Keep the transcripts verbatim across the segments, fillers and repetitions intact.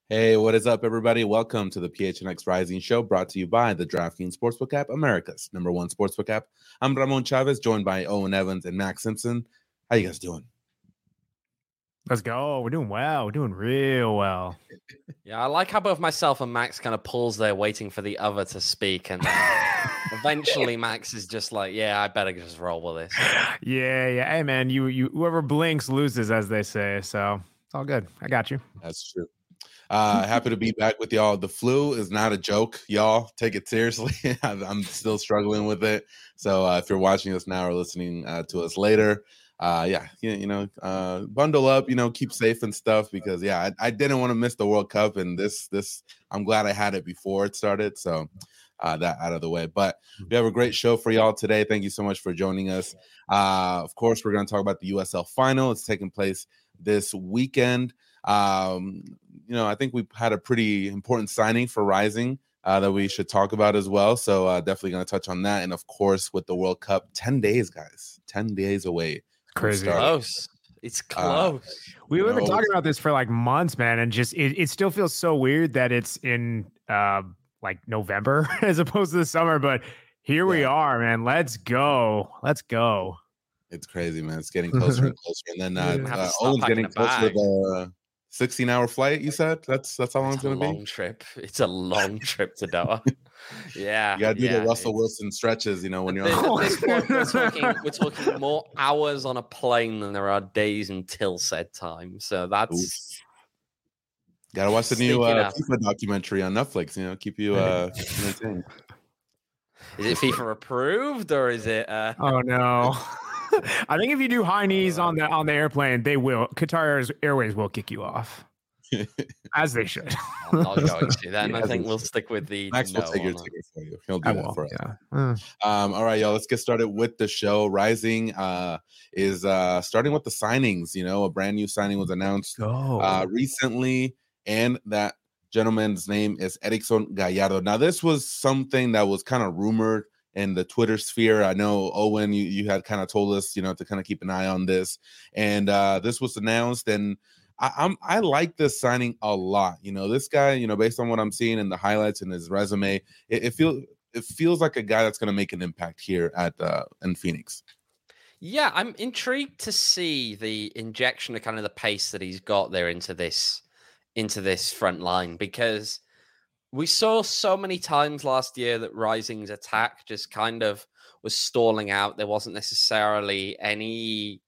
Hey, what is up, everybody? Welcome to the P H N X Rising Show, brought to you by the DraftKings Sportsbook app, America's number one sportsbook app. I'm Ramon Chavez, joined by Owen Evans and Max Simpson. How you guys doing? Let's go. We're doing well. We're doing real well. Yeah, I like how both myself and Max kind of pulls there waiting for the other to speak. And eventually Max is just like, yeah, I better just roll with this. Yeah, yeah. Hey, man, you, you, whoever blinks loses, as they say. So it's all good. I got you. That's true. Uh, happy to be back with y'all. The flu is not a joke, y'all. Take it seriously. I'm still struggling with it. So uh, if you're watching us now or listening uh, to us later, uh, yeah, you, you know, uh, bundle up, you know, keep safe and stuff because, yeah, I, I didn't want to miss the World Cup. And this, this, I'm glad I had it before it started. So uh, that out of the way. But we have a great show for y'all today. Thank you so much for joining us. Uh, of course, we're going to talk about the U S L final. It's taking place this weekend. Um, you know, I think we've had a pretty important signing for Rising uh, that we should talk about as well. So uh, definitely going to touch on that. And of course, with the World Cup, ten days, guys, ten days away. Crazy. Close. It's close. Uh, we were talking about this for like months, man. And just, it, it still feels so weird that it's in uh, like November as opposed to the summer. But here yeah. we are, man. Let's go. Let's go. It's crazy, man. It's getting closer and closer. And then uh, uh, Owen's getting closer to the sixteen hour flight, you said? That's that's how long it's, it's going to be? Long trip. It's a long trip to Doha. Yeah. You got to do yeah, the Russell Wilson stretches, you know, when you're this, on this point, we're, talking, we're talking more hours on a plane than there are days until said time. So that's... Got to watch the new uh, FIFA documentary on Netflix, you know, keep you uh, entertained. Is it FIFA approved or is it... Uh... Oh, no. I think if you do high knees on the on the airplane, they will. Qatar Airways will kick you off, as they should. I'm not going to. Then yeah, I think we'll stick with the. Max no will take your ticket for you. He'll do I that will, for us. Yeah. Mm. Um, all right, y'all. Let's get started with the show. Rising uh, is uh, starting with the signings. You know, a brand new signing was announced oh. uh, recently, and that gentleman's name is Erickson Gallardo. Now, this was something that was kind of rumored in the Twitter sphere. I know, Owen, you, you had kind of told us, you know, to kind of keep an eye on this. And uh, this was announced, and I, I'm I like this signing a lot. You know, this guy, you know, based on what I'm seeing in the highlights in his resume, it, it feels it feels like a guy that's going to make an impact here at uh, in Phoenix. Yeah, I'm intrigued to see the injection of kind of the pace that he's got there into this into this front line, because we saw so many times last year that Rising's attack just kind of was stalling out. There wasn't necessarily any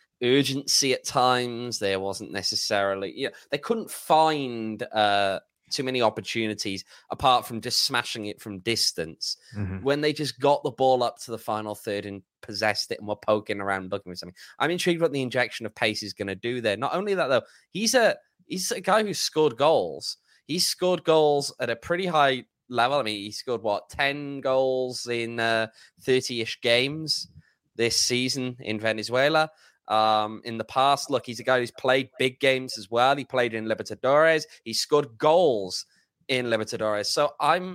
urgency at times. There wasn't necessarily, you know, they couldn't find uh, too many opportunities apart from just smashing it from distance. Mm-hmm. When they just got the ball up to the final third and possessed it and were poking around looking for something. I'm intrigued what the injection of pace is going to do there. Not only that, though, he's a he's a guy who scored goals. He scored goals at a pretty high level. I mean, he scored, what, ten goals in uh, thirty-ish games this season in Venezuela. Um, in the past, look, he's a guy who's played big games as well. He played in Libertadores. He scored goals in Libertadores. So I'm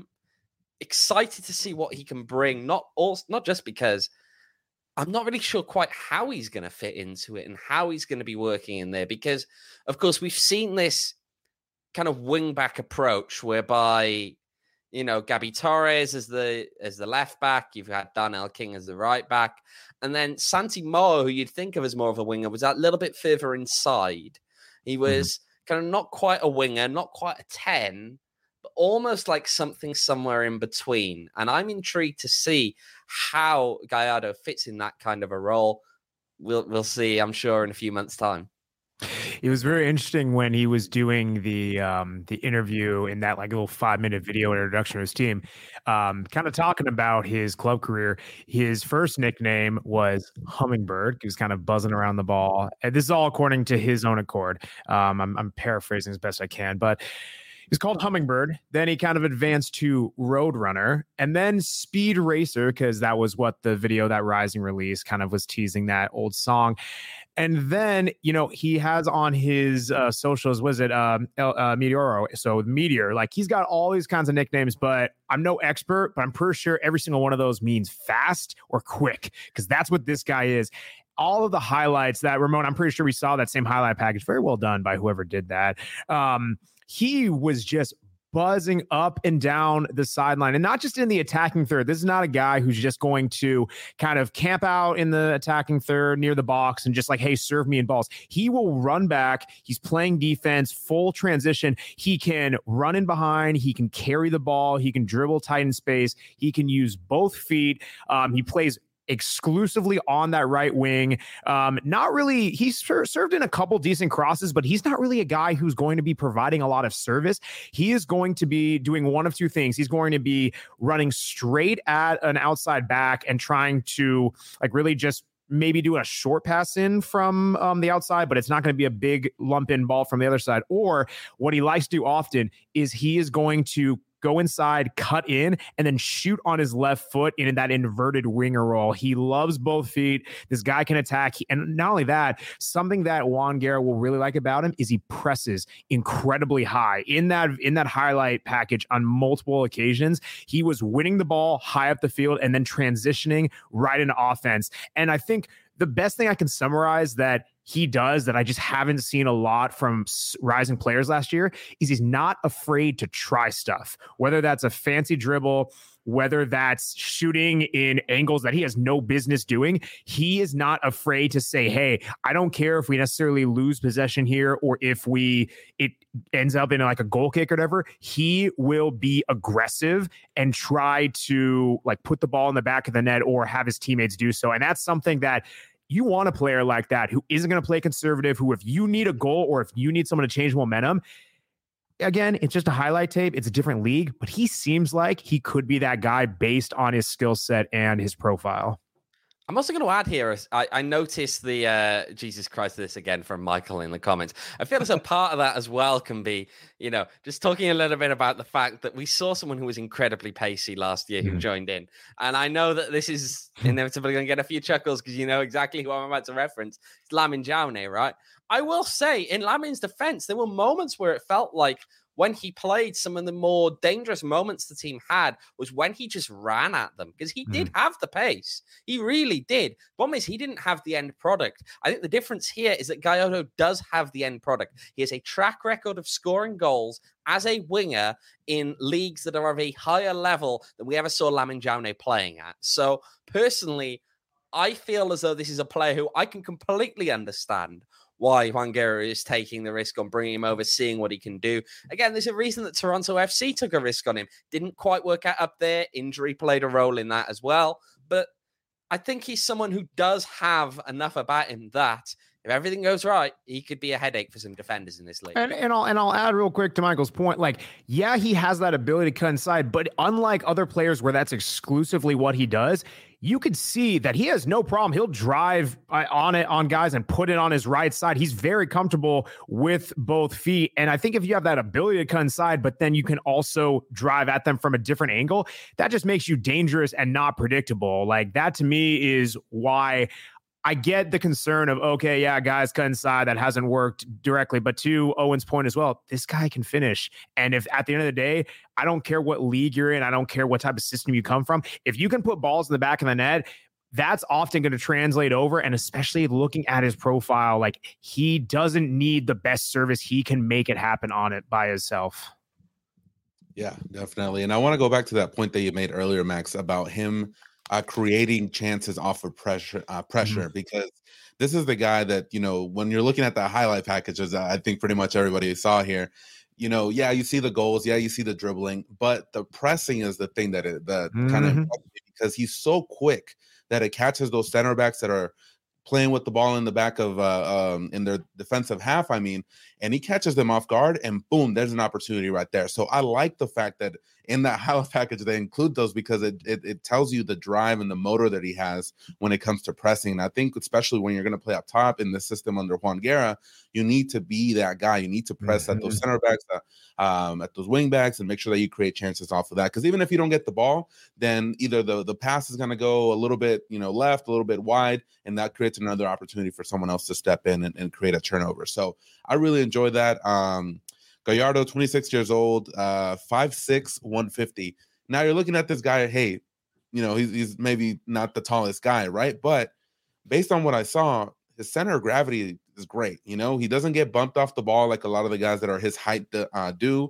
excited to see what he can bring, not also, not just because I'm not really sure quite how he's going to fit into it and how he's going to be working in there. Because, of course, we've seen this kind of wing back approach whereby, you know, Gabby Torres as the as the left back, you've got Darnell King as the right back, and then Santi Moa, who you'd think of as more of a winger, was that little bit further inside. He was mm-hmm. kind of not quite a winger, not quite a ten, but almost like something somewhere in between. And I'm intrigued to see how Gallardo fits in that kind of a role. We'll we'll see, I'm sure, in a few months' time. It was very interesting when he was doing the um, the interview in that like little five minute video introduction to his team, um, kind of talking about his club career. His first nickname was Hummingbird. He was kind of buzzing around the ball. And this is all according to his own accord. Um, I'm, I'm paraphrasing as best I can, but he was called Hummingbird. Then he kind of advanced to Roadrunner and then Speed Racer, because that was what the video that Rising released kind of was teasing, that old song. And then, you know, he has on his uh, socials, was it um, uh, Meteoro? So Meteor, like he's got all these kinds of nicknames, but I'm no expert, but I'm pretty sure every single one of those means fast or quick, because that's what this guy is. All of the highlights that, Ramon, I'm pretty sure we saw that same highlight package. Very well done by whoever did that. Um, he was just buzzing up and down the sideline, and not just in the attacking third. This is not a guy who's just going to kind of camp out in the attacking third near the box and just like, hey, serve me in balls. He will run back. He's playing defense, full transition. He can run in behind. He can carry the ball. He can dribble tight in space. He can use both feet. Um, he plays exclusively on that right wing. Um, not really, he's ser- served in a couple decent crosses, but he's not really a guy who's going to be providing a lot of service. He is going to be doing one of two things. He's going to be running straight at an outside back and trying to like really just maybe do a short pass in from um, the outside, but it's not going to be a big lump in ball from the other side. Or what he likes to do often is he is going to go inside, cut in, and then shoot on his left foot in that inverted winger roll. He loves both feet. This guy can attack. And not only that, something that Juan Guerra will really like about him is he presses incredibly high. In that, in that highlight package on multiple occasions, he was winning the ball high up the field and then transitioning right into offense. And I think the best thing I can summarize that he does that I just haven't seen a lot from rising players last year is he's not afraid to try stuff, whether that's a fancy dribble, whether that's shooting in angles that he has no business doing. He is not afraid to say, hey, I don't care if we necessarily lose possession here or if we it ends up in like a goal kick or whatever. He will be aggressive and try to like put the ball in the back of the net or have his teammates do so. And that's something that you want a player like that who isn't going to play conservative, who if you need a goal or if you need someone to change momentum, again, it's just a highlight tape. It's a different league, but he seems like he could be that guy based on his skill set and his profile. I'm also going to add here, I, I noticed the, uh, Jesus Christ, this again from Michael in the comments. I feel as though part of that as well can be, you know, just talking a little bit about the fact that we saw someone who was incredibly pacey last year who mm. joined in. And I know that this is inevitably going to get a few chuckles because you know exactly who I'm about to reference. It's Lamine Jaune, right? I will say, in Lamine's defense, there were moments where it felt like when he played, some of the more dangerous moments the team had was when he just ran at them because he mm. did have the pace. He really did. Problem is, he didn't have the end product. I think the difference here is that Gallardo does have the end product. He has a track record of scoring goals as a winger in leagues that are of a higher level than we ever saw Lamine Jaune playing at. So personally, I feel as though this is a player who I can completely understand why Juan Guerra is taking the risk on bringing him over, seeing what he can do. Again, there's a reason that Toronto F C took a risk on him. Didn't quite work out up there. Injury played a role in that as well. But I think he's someone who does have enough about him that if everything goes right, he could be a headache for some defenders in this league. And, and I'll and I'll add real quick to Michael's point. Like, yeah, he has that ability to cut inside, but unlike other players where that's exclusively what he does, you could see that he has no problem. He'll drive on it on guys and put it on his right side. He's very comfortable with both feet. And I think if you have that ability to cut inside, but then you can also drive at them from a different angle, that just makes you dangerous and not predictable. Like that to me is why I get the concern of, okay, yeah, guys cut inside. That hasn't worked directly. But to Owen's point as well, this guy can finish. And if at the end of the day, I don't care what league you're in, I don't care what type of system you come from. If you can put balls in the back of the net, that's often going to translate over. And especially looking at his profile, like he doesn't need the best service. He can make it happen on it by himself. Yeah, definitely. And I want to go back to that point that you made earlier, Max, about him Uh, creating chances off of pressure, uh, pressure, mm-hmm. because this is the guy that, you know, when you're looking at the highlight packages, I think pretty much everybody saw here, you know, yeah, you see the goals, yeah, you see the dribbling, but the pressing is the thing that it, that mm-hmm. kind of, because he's so quick that it catches those center backs that are playing with the ball in the back of uh, um, in their defensive half, I mean, and he catches them off guard and boom, there's an opportunity right there. So I like the fact that in that highlight package, they include those because it, it it tells you the drive and the motor that he has when it comes to pressing. And I think especially when you're going to play up top in the system under Juan Guerra, you need to be that guy. You need to press mm-hmm. at those center backs, uh, um, at those wing backs, and make sure that you create chances off of that. Because even if you don't get the ball, then either the, the pass is going to go a little bit, you know, left, a little bit wide, and that creates another opportunity for someone else to step in and, and create a turnover. So I really enjoy that. Um, Gallardo, twenty-six years old, uh, five six, one fifty. Now you're looking at this guy, hey, you know, he's, he's maybe not the tallest guy, right? But based on what I saw, his center of gravity is great. You know, he doesn't get bumped off the ball like a lot of the guys that are his height uh, do.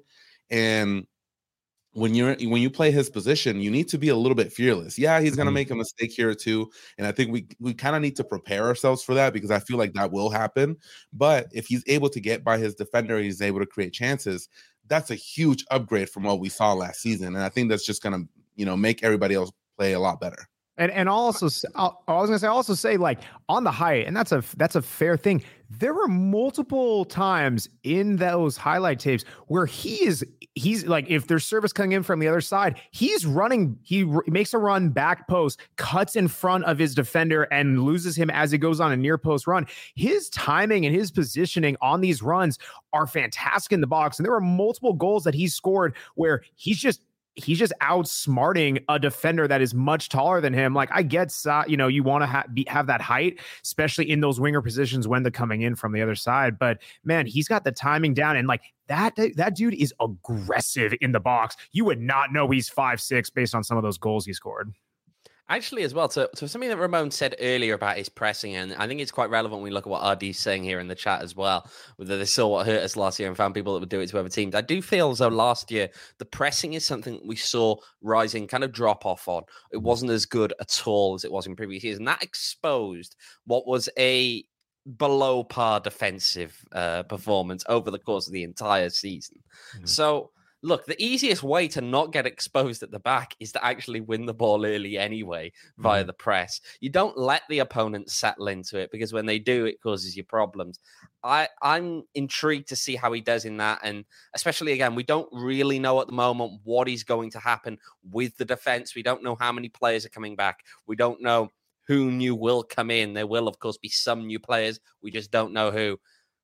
And when you're when you play his position, you need to be a little bit fearless. Yeah, he's gonna make a mistake here or two, and I think we we kind of need to prepare ourselves for that because I feel like that will happen. But if he's able to get by his defender, he's able to create chances. That's a huge upgrade from what we saw last season, and I think that's just gonna you know make everybody else play a lot better. And and also, I was gonna say, also say like on the height, and that's a that's a fair thing. There were multiple times in those highlight tapes where he is he's like, if there's service coming in from the other side, he's running. He r- makes a run back post, cuts in front of his defender, and loses him as he goes on a near post run. His timing and his positioning on these runs are fantastic in the box, and there were multiple goals that he scored where he's just. He's just outsmarting a defender that is much taller than him. Like I get, uh, you know, you want to ha- be, have that height, especially in those winger positions when they're coming in from the other side. But man, he's got the timing down, and like that, that dude is aggressive in the box. You would not know he's five six based on some of those goals he scored. Actually, as well, so, so something that Ramon said earlier about his pressing, and I think it's quite relevant when we look at what R D's saying here in the chat as well, whether they saw what hurt us last year and found people that would do it to other teams. I do feel as though last year, the pressing is something we saw rising, kind of drop off on. It wasn't as good at all as it was in previous years, and that exposed what was a below par defensive uh, performance over the course of the entire season. Mm-hmm. So, look, the easiest way to not get exposed at the back is to actually win the ball early anyway via mm-hmm. the press. You don't let the opponent settle into it because when they do, it causes you problems. I, I'm intrigued to see how he does in that. And especially, again, we don't really know at the moment what is going to happen with the defense. We don't know how many players are coming back. We don't know who new will come in. There will, of course, be some new players. We just don't know who.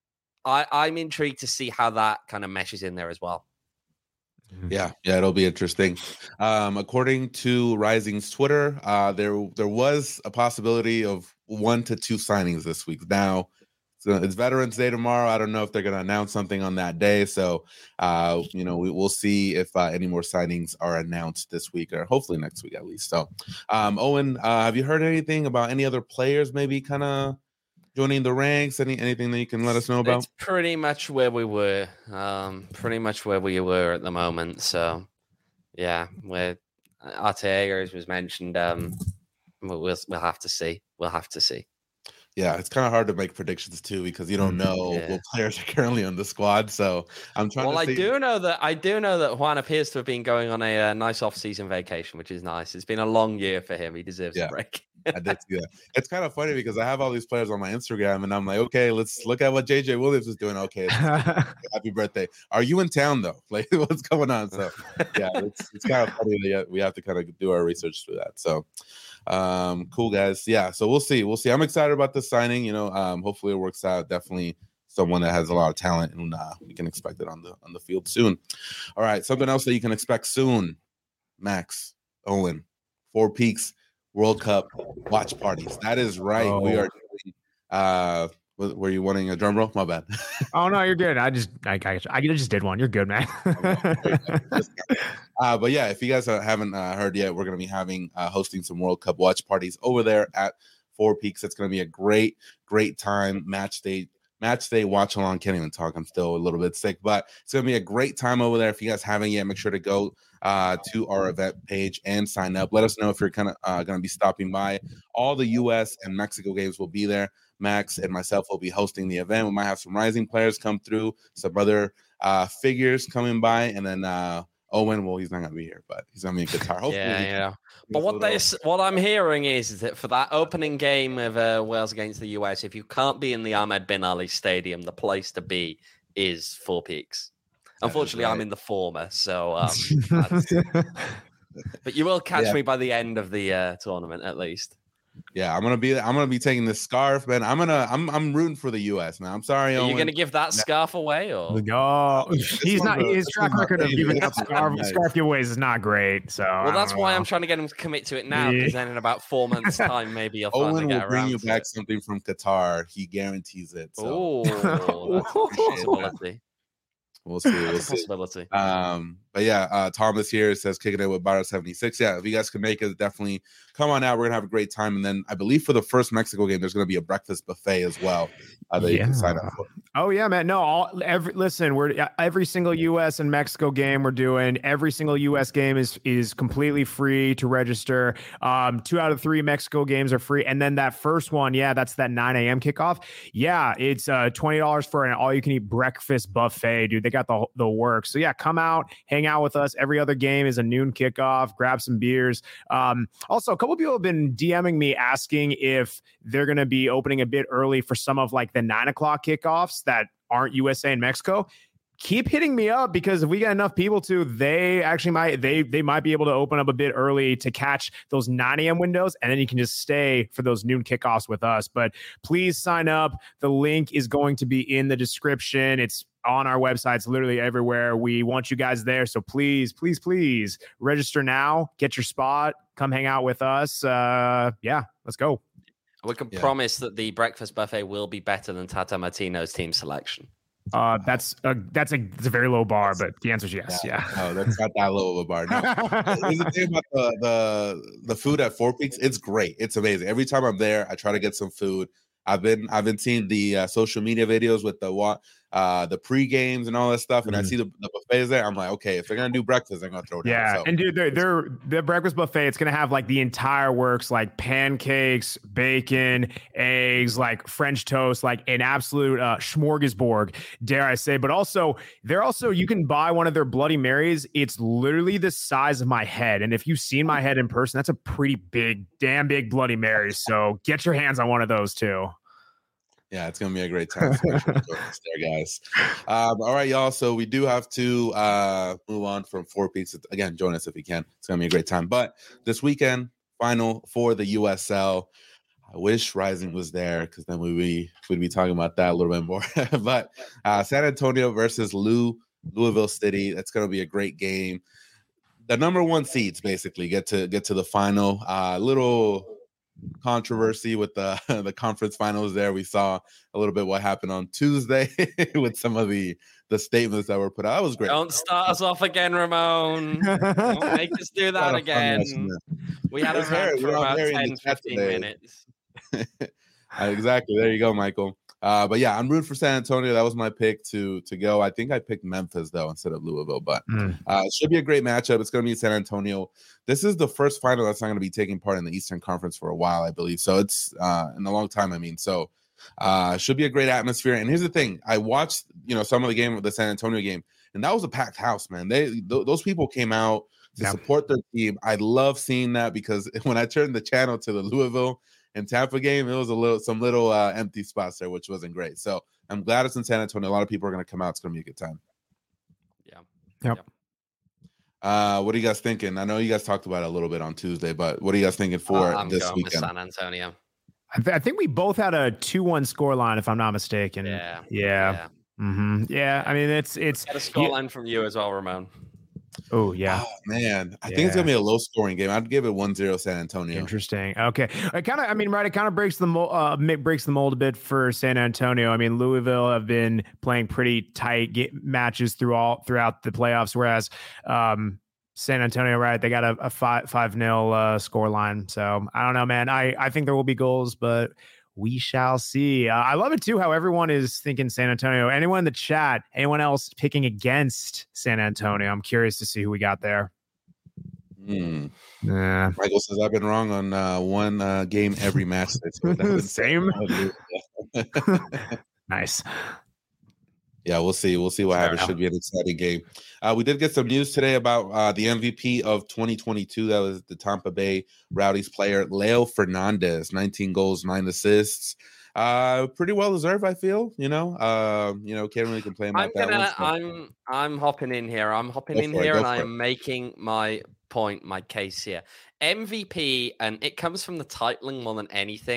I, I'm intrigued to see how that kind of meshes in there as well. Yeah, yeah, it'll be interesting. Um, according to Rising's Twitter, uh, there there was a possibility of one to two signings this week. Now, so it's Veterans Day tomorrow. I don't know if they're going to announce something on that day. So, uh, you know, we, we'll see if uh, any more signings are announced this week or hopefully next week at least. So, um, Owen, uh, have you heard anything about any other players maybe kind of joining the ranks? Any anything that you can let us know about? It's pretty much where we were. Um, pretty much where we were at the moment. So, yeah, where Arteaga, as was mentioned, um, we'll we'll have to see. We'll have to see. Yeah, it's kind of hard to make predictions too because you don't know yeah. what players are currently on the squad. So I'm trying. Well, to I see... do know that I do know that Juan appears to have been going on a, a nice off-season vacation, which is nice. It's been a long year for him. He deserves yeah. a break. I did see that. It's kind of funny because I have all these players on my Instagram, and I'm like, okay, let's look at what J J Williams is doing. Okay, happy birthday. Are you in town though? Like, what's going on? So, yeah, it's it's kind of funny that we have to kind of do our research through that. So, um, cool guys. Yeah, so we'll see. We'll see. I'm excited about this signing. You know, um, hopefully it works out. Definitely someone that has a lot of talent, and uh, we can expect it on the on the field soon. All right, something else that you can expect soon. Max, Owen, Four Peaks World Cup watch parties. That is right. Oh. We are doing, uh were you wanting a drum roll? My bad. Oh no, you're good. I just I, I, I just did one. You're good, man. uh but yeah, if you guys haven't uh, heard yet, we're gonna be having uh hosting some World Cup watch parties over there at Four Peaks. It's gonna be a great, great time. Match day Match day watch along. Can't even talk. I'm still a little bit sick, but it's gonna be a great time over there. If you guys haven't yet, make sure to go uh, to our event page and sign up. Let us know if you're kind of uh, gonna be stopping by. All the U S and Mexico games will be there. Max and myself will be hosting the event. We might have some Rising players come through, some other uh, figures coming by, and then uh, Owen. Well, he's not gonna be here, but he's gonna be a guitar. Hopefully, yeah, yeah. But what they, what I'm hearing is that for that opening game of uh, Wales against the U S, if you can't be in the Ahmed Bin Ali Stadium, the place to be is Four Peaks. Unfortunately, right. I'm in the former, so. Um, but you will catch yeah. me by the end of the uh, tournament, at least. Yeah, I'm gonna be. I'm gonna be taking this scarf, man. I'm gonna. I'm. I'm rooting for the U S, man. I'm sorry. Are Owen. you gonna give that scarf away, or no? He's not. A, his track record of giving up scarf scarf giveaways is not great. So well, that's why know. I'm trying to get him to commit to it now. Because yeah. then in about four months' time, maybe you'll Owen will get bring you back it. something from Qatar. He guarantees it. So. Oh, that's a possibility. We'll see. We'll That's a see. possibility. Um, but yeah, uh, Thomas here says kicking it with Barra seventy-six. Yeah, if you guys can make it, definitely come on out. We're gonna have a great time. And then I believe for the first Mexico game, there's gonna be a breakfast buffet as well uh, that yeah. you can sign up for. Oh yeah, man. No, all every listen, we're every single U S and Mexico game we're doing. Every single U S game is is completely free to register. Um, two out of three Mexico games are free, and then that first one, yeah, that's that nine a.m. kickoff. Yeah, it's uh twenty dollars for an all you can eat breakfast buffet, dude. They got the the work. So yeah, come out, hang out with us. Every other game is a noon kickoff. Grab some beers. Um, also, a couple of people have been DMing me asking if they're going to be opening a bit early for some of like the nine o'clock kickoffs that aren't U S A and Mexico. Keep hitting me up, because if we get enough people to, they actually might they they might be able to open up a bit early to catch those nine a.m. windows, and then you can just stay for those noon kickoffs with us. But please sign up. The link is going to be in the description. It's on our website. It's literally everywhere. We want you guys there. So please, please, please register now. Get your spot. Come hang out with us. Uh, yeah, let's go. We can Yeah. promise that the breakfast buffet will be better than Tata Martino's team selection. Uh, that's a that's a it's a very low bar, but the answer is yes. Yeah. yeah. No, that's not that low of a bar. No. Here's the thing about the, the the food at Four Peaks. It's great. It's amazing. Every time I'm there, I try to get some food. I've been I've been seeing the uh, social media videos with the what uh the pre games and all that stuff, and mm. I see the, the buffets there. I'm like, okay, if they're gonna do breakfast, they're gonna throw it down. Yeah, so. and dude, they're, they're the breakfast buffet. It's gonna have like the entire works, like pancakes, bacon, eggs, like French toast, like an absolute uh, smorgasbord, dare I say. But also, they're also you can buy one of their Bloody Marys. It's literally the size of my head, and if you've seen my head in person, that's a pretty big, damn big Bloody Mary. So get your hands on one of those too. Yeah, it's gonna be a great time. So make sure to join us there, guys. Um, all right, y'all. So we do have to uh, move on from Four Peaks. Again, join us if you can. It's gonna be a great time. But this weekend, final for the U S L. I wish Rising was there, because then we'd be we'd be talking about that a little bit more. But uh, San Antonio versus Lou Louisville City. That's gonna be a great game. The number one seeds basically get to get to the final. Uh, little. Controversy with the the conference finals there. We saw a little bit what happened on Tuesday with some of the the statements that were put out. That was great. Don't start us off again, Ramon. Don't make us do that again. We had a rant for about ten, fifteen minutes. Exactly. There you go, Michael. Uh, but yeah, I'm rooting for San Antonio. That was my pick to to go. I think I picked Memphis though instead of Louisville, but mm. uh, it should be a great matchup. It's going to be San Antonio. This is the first final that's not going to be taking part in the Eastern Conference for a while, I believe. So it's uh, in a long time. I mean, so uh, should be a great atmosphere. And here's the thing: I watched, you know, some of the game of the San Antonio game, and that was a packed house, man. They th- those people came out to yeah. support their team. I love seeing that, because when I turned the channel to the Louisville and Tampa game, it was a little some little uh, empty spots there, which wasn't great. So I'm glad it's in San Antonio. A lot of people are going to come out. It's going to be a good time. Yeah. Yep. yep. Uh, what are you guys thinking? I know you guys talked about it a little bit on Tuesday, but what are you guys thinking for uh, I'm this going weekend? with San Antonio. I, th- I think we both had a two one score line, if I'm not mistaken. Yeah. Yeah. Yeah. Mm-hmm. yeah. I mean, it's it's Got a score line from you as well, Ramon. Oh, yeah. Oh, man. I yeah. think it's going to be a low-scoring game. I'd give it one zero San Antonio. Interesting. Okay. It kind of, I mean, right, it kind of breaks the mold, uh, breaks the mold a bit for San Antonio. I mean, Louisville have been playing pretty tight get matches through all, throughout the playoffs, whereas um, San Antonio, right, they got a, a five, five nil uh, score line. So, I don't know, man. I, I think there will be goals, but we shall see. Uh, I love it too how everyone is thinking San Antonio. Anyone in the chat, anyone else picking against San Antonio? I'm curious to see who we got there. Hmm. Yeah. Michael says I've been wrong on uh, one uh, game every match. Same. Nice. Yeah, we'll see. We'll see what happens. Should be an exciting game. Uh, we did get some news today about uh, the M V P of twenty twenty-two. That was the Tampa Bay Rowdies player, Leo Fernandez, nineteen goals, nine assists. Uh, pretty well deserved, I feel. You know, uh, you know, can't really complain about I'm that gonna, one. So. I'm, I'm hopping in here. I'm hopping Go in it, here, and I it. am making my point, my case here. M V P, and it comes from the titling more than anything.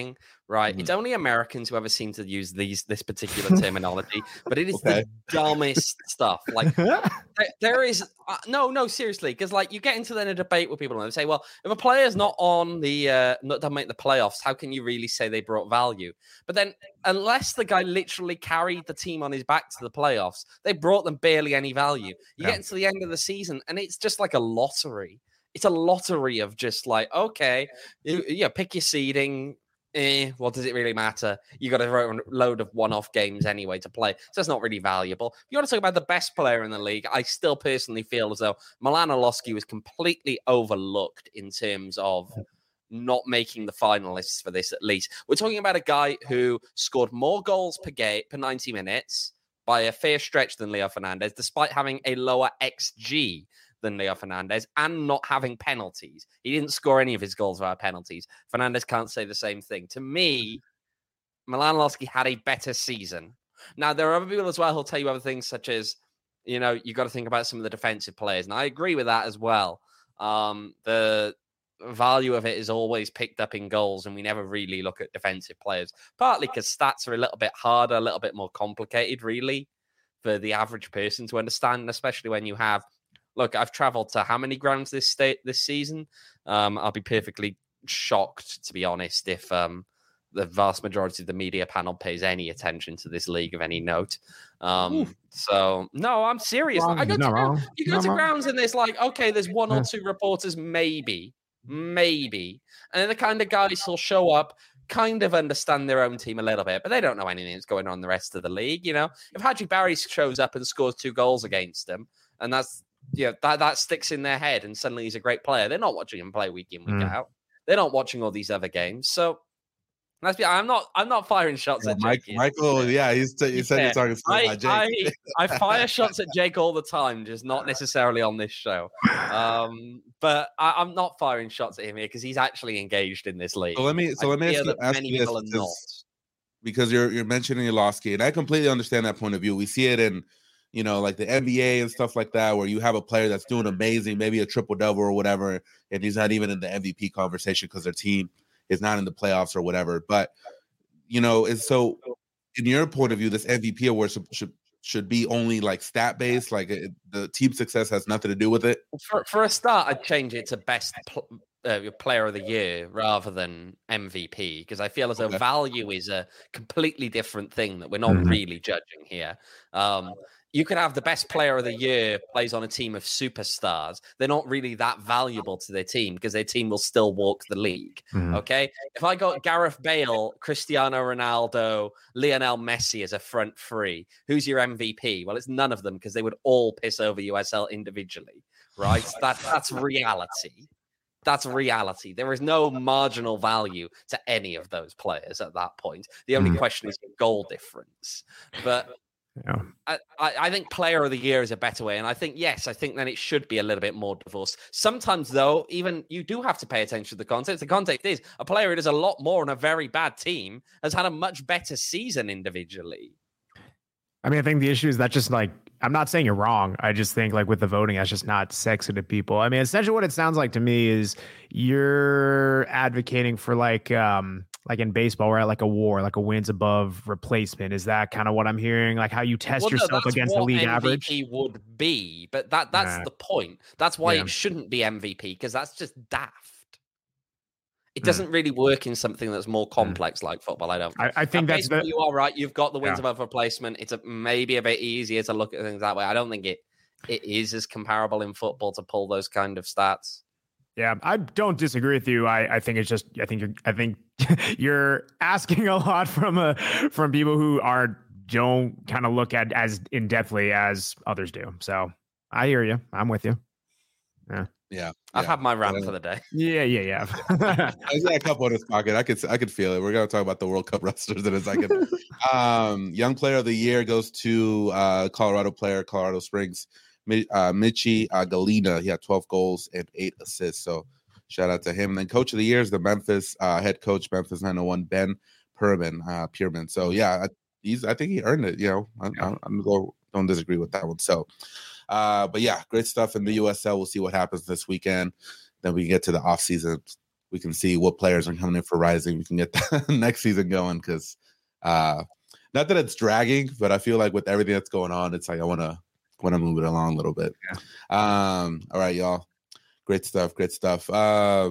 right? Mm-hmm. It's only Americans who ever seem to use these this particular terminology, but it is Okay. the dumbest stuff. Like there, there is uh, no, no, seriously, because like you get into then a debate with people and they say, well, if a player's not on the uh, not to make the playoffs, how can you really say they brought value? But then, unless the guy literally carried the team on his back to the playoffs, they brought them barely any value. You Yeah. get into the end of the season, and it's just like a lottery. It's a lottery of just like, okay, you, you pick your seeding. Eh, what does it really matter? You got a load of one-off games anyway to play, so it's not really valuable. If you want to talk about the best player in the league, I still personally feel as though Milan Orlowski was completely overlooked in terms of not making the finalists for this. At least we're talking about a guy who scored more goals per game per ninety minutes by a fair stretch than Leo Fernandez, despite having a lower X G than Leo Fernandez and not having penalties. He didn't score any of his goals via penalties. Fernandez can't say the same thing. To me, Milan Orlowski had a better season. Now, there are other people as well who'll tell you other things, such as, you know, you got to think about some of the defensive players. And I agree with that as well. Um, the value of it is always picked up in goals, and we never really look at defensive players, partly because stats are a little bit harder, a little bit more complicated, really, for the average person to understand, especially when you have Look, I've traveled to how many grounds this state this season? Um, I'll be perfectly shocked, to be honest, if um, the vast majority of the media panel pays any attention to this league of any note. Um, so, no, I'm serious. Wrong. I go No, to, wrong. you go No, to wrong. grounds and there's like, okay, there's one or Yeah. two reporters, maybe, maybe. And then the kind of guys who'll show up, kind of understand their own team a little bit, but they don't know anything that's going on in the rest of the league. You know, if Hadji Barry shows up and scores two goals against them, and that's, yeah, that, that sticks in their head, and suddenly he's a great player. They're not watching him play week in, week Mm. out. They're not watching all these other games. So let's be. I'm not. I'm not firing shots Yeah, at Mike, Jake. Michael, yeah, he's t- he said Yeah. you're talking stuff I, about Jake. I, I fire shots at Jake all the time, just not necessarily on this show. Um, but I, I'm not firing shots at him here because he's actually engaged in this league. so let me so I let me ask fear you, that ask many you this people are because, not. because you're you're mentioning Orlowski, and I completely understand that point of view. We see it in, you know, like the N B A and stuff like that, where you have a player that's doing amazing, maybe a triple double or whatever, and he's not even in the M V P conversation because their team is not in the playoffs or whatever. But you know, and so in your point of view, this M V P award should should, should be only like stat based, like it, the team success has nothing to do with it. For for a start, I'd change it to best pl- uh, player of the year rather than M V P because I feel as though Okay. value is a completely different thing that we're not Mhm. really judging here. Um, you could have the best player of the year plays on a team of superstars. They're not really that valuable to their team because their team will still walk the league. Mhm. Okay. If I got Gareth Bale, Cristiano Ronaldo, Lionel Messi as a front three, who's your M V P? Well, it's none of them because they would all piss over U S L individually, right? That, that's reality. That's reality. There is no marginal value to any of those players at that point. The only Mhm. question is goal difference. But Yeah. I, I I think player of the year is a better way. And I think, yes, I think then it should be a little bit more divorced. Sometimes, though, even you do have to pay attention to the context. The context is a player who does a lot more on a very bad team has had a much better season individually. I mean, I think the issue is that just like, I'm not saying you're wrong. I just think like with the voting, that's just not sexy to people. I mean, essentially what it sounds like to me is you're advocating for like, um, like in baseball, we're at like a war, like a wins above replacement. Is that kind of what I'm hearing? Like how you test Well, no, yourself that's against the what league M V P average? would be, but that that's Nah. the point. That's why Yeah. it shouldn't be M V P because that's just daft. It Mm. doesn't really work in something that's more complex like football. I don't. I, I think At that's baseball, the, you are right. You've got the wins Yeah. above replacement. It's a, maybe a bit easier to look at things that way. I don't think it it is as comparable in football to pull those kind of stats. yeah, I don't disagree with you. I, I think it's just, I think you're, I think you're asking a lot from a, from people who are, don't kind of look at as in depthly as others do. So I hear you. I'm with you. Yeah, I've yeah. had my rant Yeah. for the day. Yeah, yeah, yeah. I got a couple in his pocket. I could I could feel it. We're gonna talk about the World Cup wrestlers in a second. um, young player of the year goes to uh, Colorado player, Colorado Springs, Mi- uh, Michi uh, Galina. He had twelve goals and eight assists. So shout out to him. And then coach of the year is the Memphis uh, head coach, Memphis nine oh one, Ben Perman, uh, Pierman. So yeah, I, he's I think he earned it. You know, I, I, I'm go don't disagree with that one. So. Uh, but yeah, great stuff in the U S L. We'll see what happens this weekend. Then we get to the off season. We we can see what players are coming in for Rising. We can get the next season going because uh, not that it's dragging, but I feel like with everything that's going on, it's like I want to want to move it along a little bit. Yeah. Um, all right, y'all. Great stuff. Great stuff. Uh,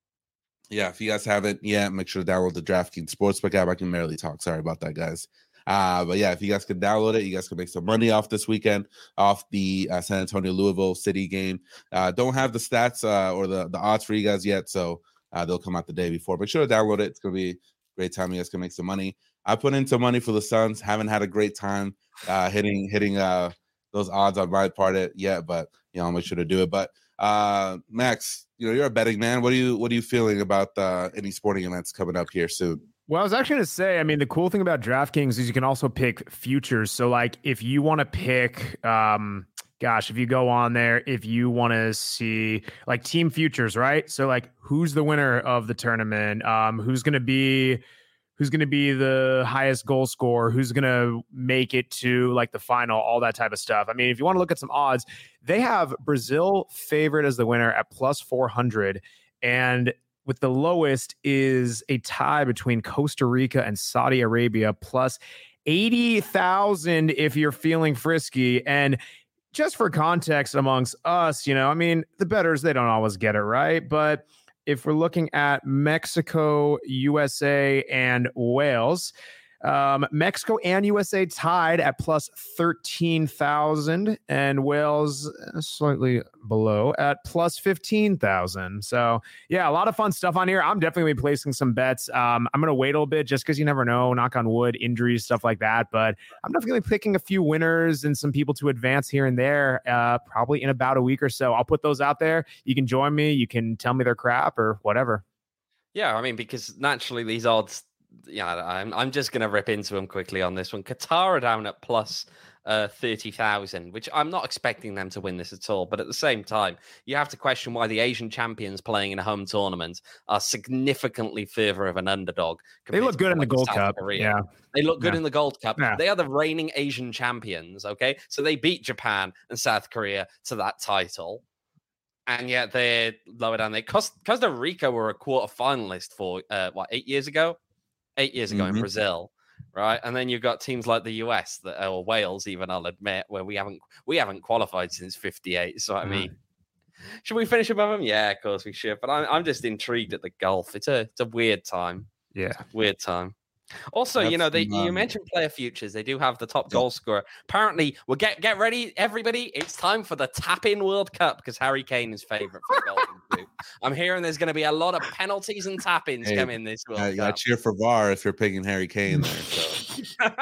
yeah, if you guys haven't yet, make sure to download the DraftKings Sportsbook app. I can barely talk. Sorry about that, guys. Uh, but yeah, if you guys could download it, you guys can make some money off this weekend off the uh, San Antonio Louisville City game. Uh, don't have the stats uh, or the, the odds for you guys yet, so uh, they'll come out the day before. Make sure to download it. It's going to be a great time. You guys can make some money. I put in some money for the Suns. Haven't had a great time uh, hitting hitting uh, those odds on my part yet, but you know, I'll make sure to do it. But uh, Max, you know, you're a betting man. What are you what are you feeling about uh, any sporting events coming up here soon? Well, I was actually going to say, I mean, the cool thing about DraftKings is you can also pick futures. So, like, if you want to pick, um, gosh, if you go on there, if you want to see like team futures, right? So, like, who's the winner of the tournament? Um, who's going to be, who's going to be the highest goal scorer? Who's going to make it to like the final? All that type of stuff. I mean, if you want to look at some odds, they have Brazil favored as the winner at plus four hundred, and with the lowest is a tie between Costa Rica and Saudi Arabia, plus eighty thousand if you're feeling frisky. And just for context amongst us, you know, I mean, the bettors, they don't always get it right. But if we're looking at Mexico, U S A, and Wales, um, Mexico and U S A tied at plus thirteen thousand, and Wales slightly below at plus fifteen thousand. So, yeah, a lot of fun stuff on here. I'm definitely placing some bets. Um, I'm going to wait a little bit just because you never know, knock on wood, injuries, stuff like that. But I'm definitely picking a few winners and some people to advance here and there, uh, probably in about a week or so. I'll put those out there. You can join me. You can tell me they're crap or whatever. Yeah, I mean, because naturally these odds, yeah, I'm I'm just going to rip into them quickly on this one. Qatar are down at plus uh, thirty thousand, which I'm not expecting them to win this at all. But at the same time, you have to question why the Asian champions playing in a home tournament are significantly further of an underdog. They look good in the Gold Cup. Yeah. They look good yeah. in the Gold Cup. Yeah. They are the reigning Asian champions, okay? So they beat Japan and South Korea to that title. And yet they're lower down there. Costa Rica were a quarter finalist for, uh, what, eight years ago? Eight years ago mm-hmm. in Brazil, right? And then you've got teams like the U S that, or Wales, even I'll admit, where we haven't we haven't qualified since fifty-eight. So I mean, mm. should we finish above them? Yeah, of course we should. But I'm I'm just intrigued at the golf. It's a it's a weird time. Yeah, weird time. Also, That's you know, they um, you mentioned player futures. They do have the top goal scorer. Apparently, we'll get get ready, everybody. It's time for the tap-in World Cup because Harry Kane is favorite for the Golden Boot. I'm hearing there's going to be a lot of penalties and tap-ins hey, coming this World I, Cup. I cheer for V A R if you're picking Harry Kane there. So.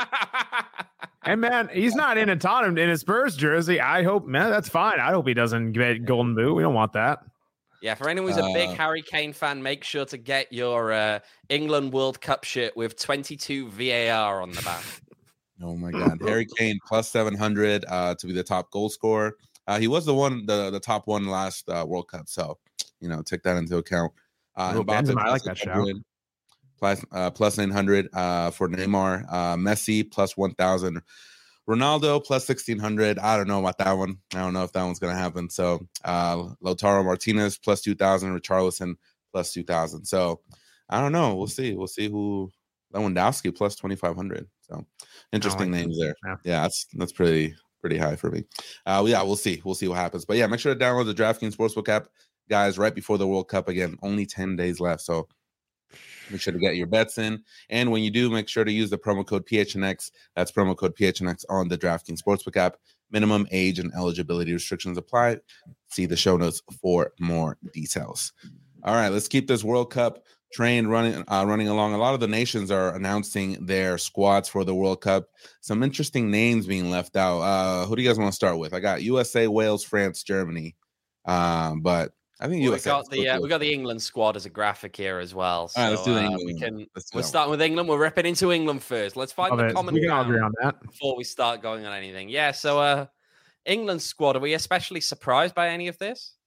And man, he's not in a Tottenham in his Spurs jersey. I hope, man, that's fine. I hope he doesn't get Golden Boot. We don't want that. Yeah, for anyone who's a big uh, Harry Kane fan, make sure to get your uh, England World Cup shirt with twenty-two V A R on the back. Oh my God, Harry Kane plus seven hundred uh, to be the top goal scorer. Uh, he was the one, the, the top one last uh, World Cup, so you know, take that into account. Uh, oh, Benzema, I like that shout. Plus, uh, plus nine hundred uh, for Neymar. Uh, Messi plus one thousand. Ronaldo plus sixteen hundred. I don't know about that one. I don't know if that one's going to happen. So uh, Lautaro Martinez plus two thousand. Richarlison plus two thousand. So I don't know. We'll see. We'll see who. Lewandowski plus twenty-five hundred. So interesting like names there. Yeah. yeah, that's that's pretty pretty high for me. Uh, yeah, we'll see. We'll see what happens. But yeah, make sure to download the DraftKings Sportsbook app, guys, right before the World Cup. Again, only ten days left. So make sure to get your bets in. And when you do, make sure to use the promo code P H N X. That's promo code P H N X on the DraftKings Sportsbook app. Minimum age and eligibility restrictions apply. See the show notes for more details. All right, let's keep this World Cup train running uh, running along. A lot of the nations are announcing their squads for the World Cup. Some interesting names being left out. Uh, who do you guys want to start with? I got U S A, Wales, France, Germany. Um, but I think well, U S A. We got the uh, we got the England squad as a graphic here as well. So, all right, let's do the uh, England. We can. Let's we're starting with England. We're ripping into England first. Let's find Love the it. common we can all ground agree on that before we start going on anything. Yeah. So, uh, England squad. Are we especially surprised by any of this?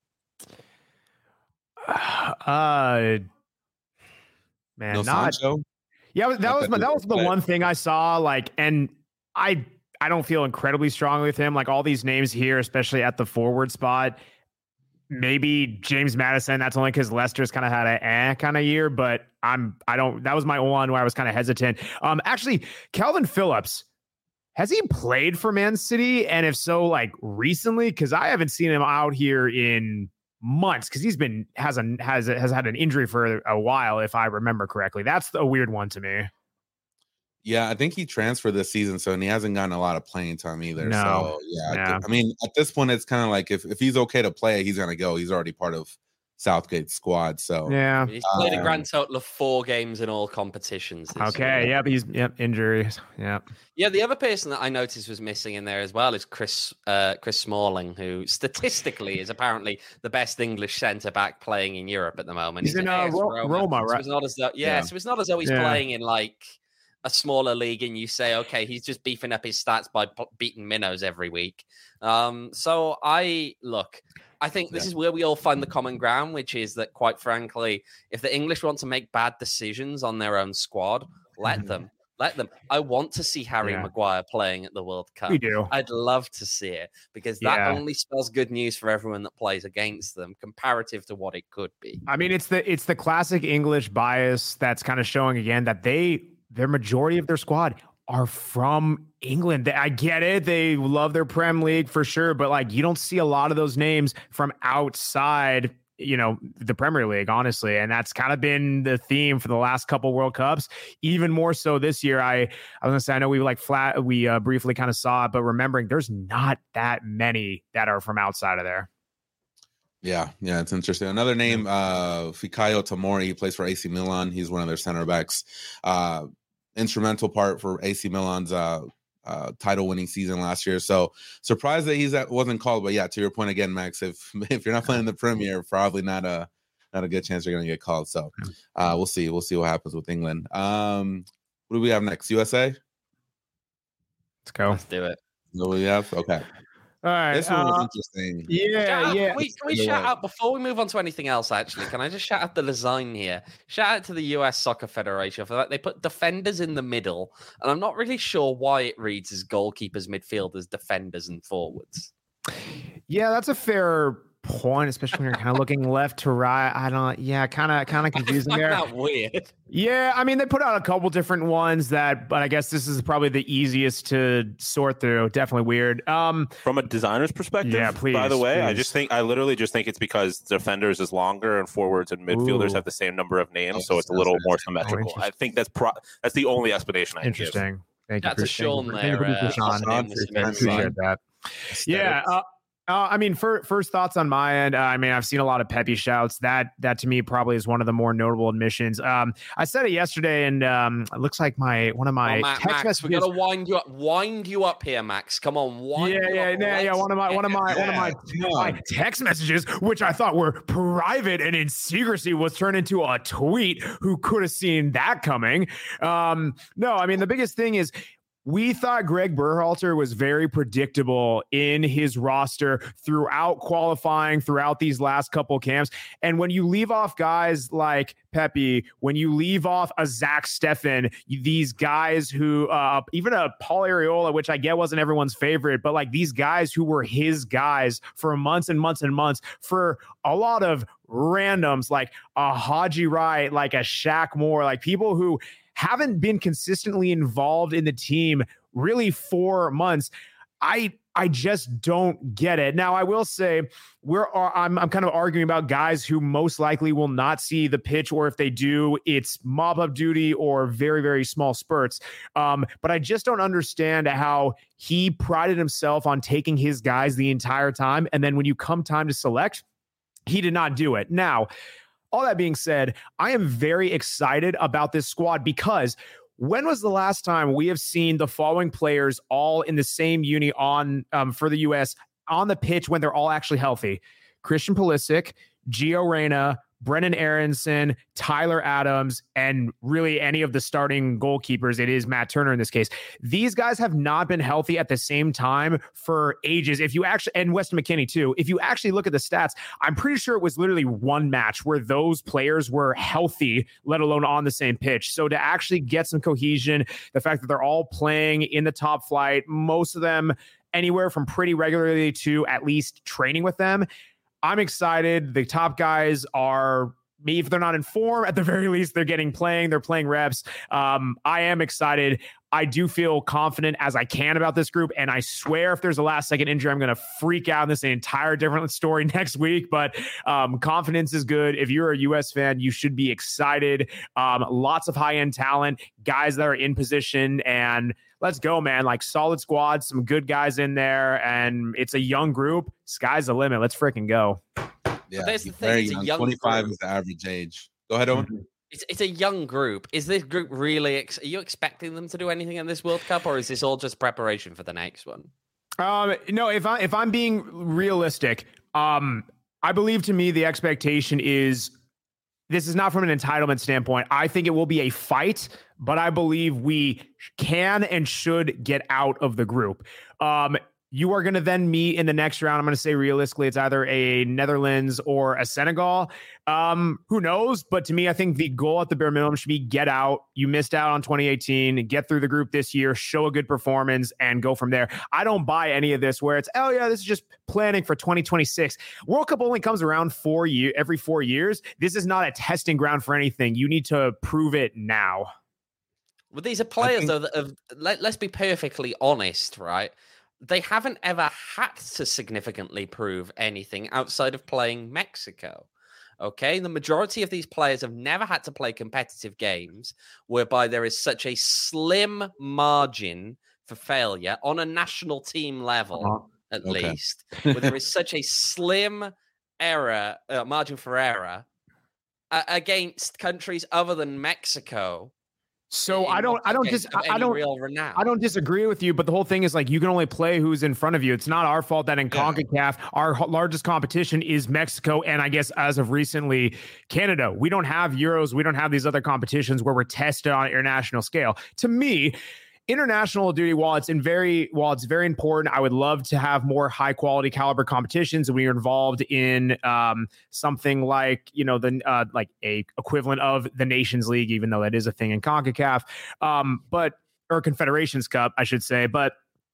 Uh, man, no not. Sancho? Yeah, that was my, that was the one thing I saw. Like, and I I don't feel incredibly strongly with him. Like all these names here, especially at the forward spot. maybe James Madison. That's only because Leicester's kind of had a eh kind of year, but I'm I don't. That was my one where I was kind of hesitant. Um, actually, Calvin Phillips. Has he played for Man City? And if so, like recently, because I haven't seen him out here in months because he's been has a has has had an injury for a while, if I remember correctly. That's a weird one to me. Yeah, I think he transferred this season, so and he hasn't gotten a lot of playing time either. No. So yeah, yeah, I mean, at this point, it's kind of like if, if he's okay to play, he's gonna go. He's already part of Southgate's squad. So yeah, he's played um, a grand total of four games in all competitions. Okay, year. yep, he's yep injuries. Yep. Yeah, the other person that I noticed was missing in there as well is Chris uh, Chris Smalling, who statistically is apparently the best English centre back playing in Europe at the moment. He's, he's in uh, Ro- Roma, Roma, right? So it's not as though, yeah, yeah, so it's not as though he's yeah. playing in like a smaller league, and you say, okay, he's just beefing up his stats by p- beating minnows every week. Um, so I look. I think this yeah. is where we all find the common ground, which is that, quite frankly, if the English want to make bad decisions on their own squad, let them. Let them. I want to see Harry yeah. Maguire playing at the World Cup. We do. I'd love to see it because that yeah. only spells good news for everyone that plays against them, comparative to what it could be. I mean, it's the it's the classic English bias that's kind of showing again that they their majority of their squad are from England. I get it. They love their Prem League for sure, but like you don't see a lot of those names from outside, you know, the Premier League, honestly. And that's kind of been the theme for the last couple World Cups, even more so this year. I, I was gonna say, I know we like flat, we uh, briefly kind of saw it, but remembering there's not that many that are from outside of there. Yeah, yeah, it's interesting. Another name, uh, Fikayo Tomori, he plays for A C Milan. He's one of their center backs. Uh, instrumental part for A C Milan's uh, uh, title-winning season last year. So surprised that he's that wasn't called. But yeah, to your point again, Max, if if you're not playing in the Premier, probably not a not a good chance you're going to get called. So uh, we'll see. We'll see what happens with England. Um, what do we have next? U S A. Let's go. Let's do it. What do we have? Okay. All right. This one was uh, interesting. Yeah, shout yeah. Out, can we, can we shout out before we move on to anything else? Actually, can I just shout out the design here? Shout out to the U S Soccer Federation for that. They put defenders in the middle, and I'm not really sure why it reads as goalkeepers, midfielders, defenders, and forwards. Yeah, that's a fair point, especially when you're kind of looking left to right. I don't. Yeah, kind of, kind of confusing there. That weird. Yeah, I mean, they put out a couple different ones that, but I guess this is probably the easiest to sort through. Definitely weird. Um, From a designer's perspective, yeah, please. By the way, please. I just think I literally just think it's because defenders is longer and forwards and midfielders Ooh. have the same number of names, oh, so it's a little more symmetrical. Oh, I think that's pro- that's the only explanation I can Interesting. give. Thank you. That's for, a Sean thank there. you for, Uh, Sean. I appreciate that. Yeah. Uh, Uh, I mean, for, first thoughts on my end. Uh, I mean, I've seen a lot of Pepe shouts. That that to me probably is one of the more notable admissions. Um, I said it yesterday, and um, it looks like my one of my oh, Matt, text Max, messages. We gotta wind you up, wind you up here, Max. Come on, wind yeah, you yeah, up. yeah, yeah. One of my one of my yeah. one of my, my text messages, which I thought were private and in secrecy, was turned into a tweet. Who could have seen that coming? Um, no, I mean the biggest thing is. We thought Greg Berhalter was very predictable in his roster throughout qualifying, throughout these last couple camps. And when you leave off guys like Pepe, when you leave off a Zach Steffen, these guys who, uh, even a Paul Areola, which I get wasn't everyone's favorite, but like these guys who were his guys for months and months and months, for a lot of randoms like a Haji Wright, like a Shaq Moore, like people who haven't been consistently involved in the team really for months. I I just don't get it. Now, I will say we're I'm I'm kind of arguing about guys who most likely will not see the pitch, or if they do, it's mop-up duty or very, very small spurts. Um, but I just don't understand how he prided himself on taking his guys the entire time. And then when you come time to select, he did not do it. Now, all that being said, I am very excited about this squad because when was the last time we have seen the following players all in the same uni on um, for the U S on the pitch when they're all actually healthy? Christian Pulisic, Gio Reyna, Brennan Aronson, Tyler Adams, and really any of the starting goalkeepers. It is Matt Turner in this case. These guys have not been healthy at the same time for ages. If you actually, and Weston McKennie too, if you actually look at the stats, I'm pretty sure it was literally one match where those players were healthy, let alone on the same pitch. So to actually get some cohesion, the fact that they're all playing in the top flight, most of them anywhere from pretty regularly to at least training with them, I'm excited. The top guys are, me, if they're not in form, at the very least, they're getting playing, they're playing reps. Um, I am excited. I do feel confident as I can about this group. And I swear if there's a last second injury, I'm going to freak out. This is an entire different story next week, but um, confidence is good. If you're a U S fan, you should be excited. Um, lots of high end talent, guys that are in position, and let's go, man. Like solid squad, some good guys in there, and it's a young group. Sky's the limit. Let's freaking go. Yeah, there's the very thing, young. young twenty-five group. is the average age. Go ahead, Owen. Mm-hmm. It's it's a young group. Is this group really? Ex- are you expecting them to do anything in this World Cup, or is this all just preparation for the next one? Um, no, if I if I'm being realistic, um, I believe to me the expectation is this is not from an entitlement standpoint. I think it will be a fight, but I believe we can and should get out of the group. Um, You are going to then meet in the next round. I'm going to say realistically, it's either a Netherlands or a Senegal. Um, who knows? But to me, I think the goal at the bare minimum should be get out. You missed out on twenty eighteen, get through the group this year, show a good performance, and go from there. I don't buy any of this where it's, oh yeah, this is just planning for twenty twenty-six. World Cup only comes around four year every four years. This is not a testing ground for anything. You need to prove it now. Well, these are players, think- though, that have, let, let's be perfectly honest, right? They haven't ever had to significantly prove anything outside of playing Mexico. Okay, the majority of these players have never had to play competitive games whereby there is such a slim margin for failure on a national team level, uh-huh. at okay. least, where there is such a slim error, uh, margin for error uh, against countries other than Mexico. So I don't, I don't, dis- I don't, I don't disagree with you, but the whole thing is like you can only play who's in front of you. It's not our fault that in yeah. CONCACAF, our largest competition is Mexico, and I guess as of recently, Canada. We don't have Euros, we don't have these other competitions where we're tested on an international scale. To me, international duty, while it's in very, while it's very important, I would love to have more high quality caliber competitions. We are involved in um, something like, you know, the uh, like a equivalent of the Nations League, even though that is a thing in CONCACAF, um, but or Confederations Cup, I should say. But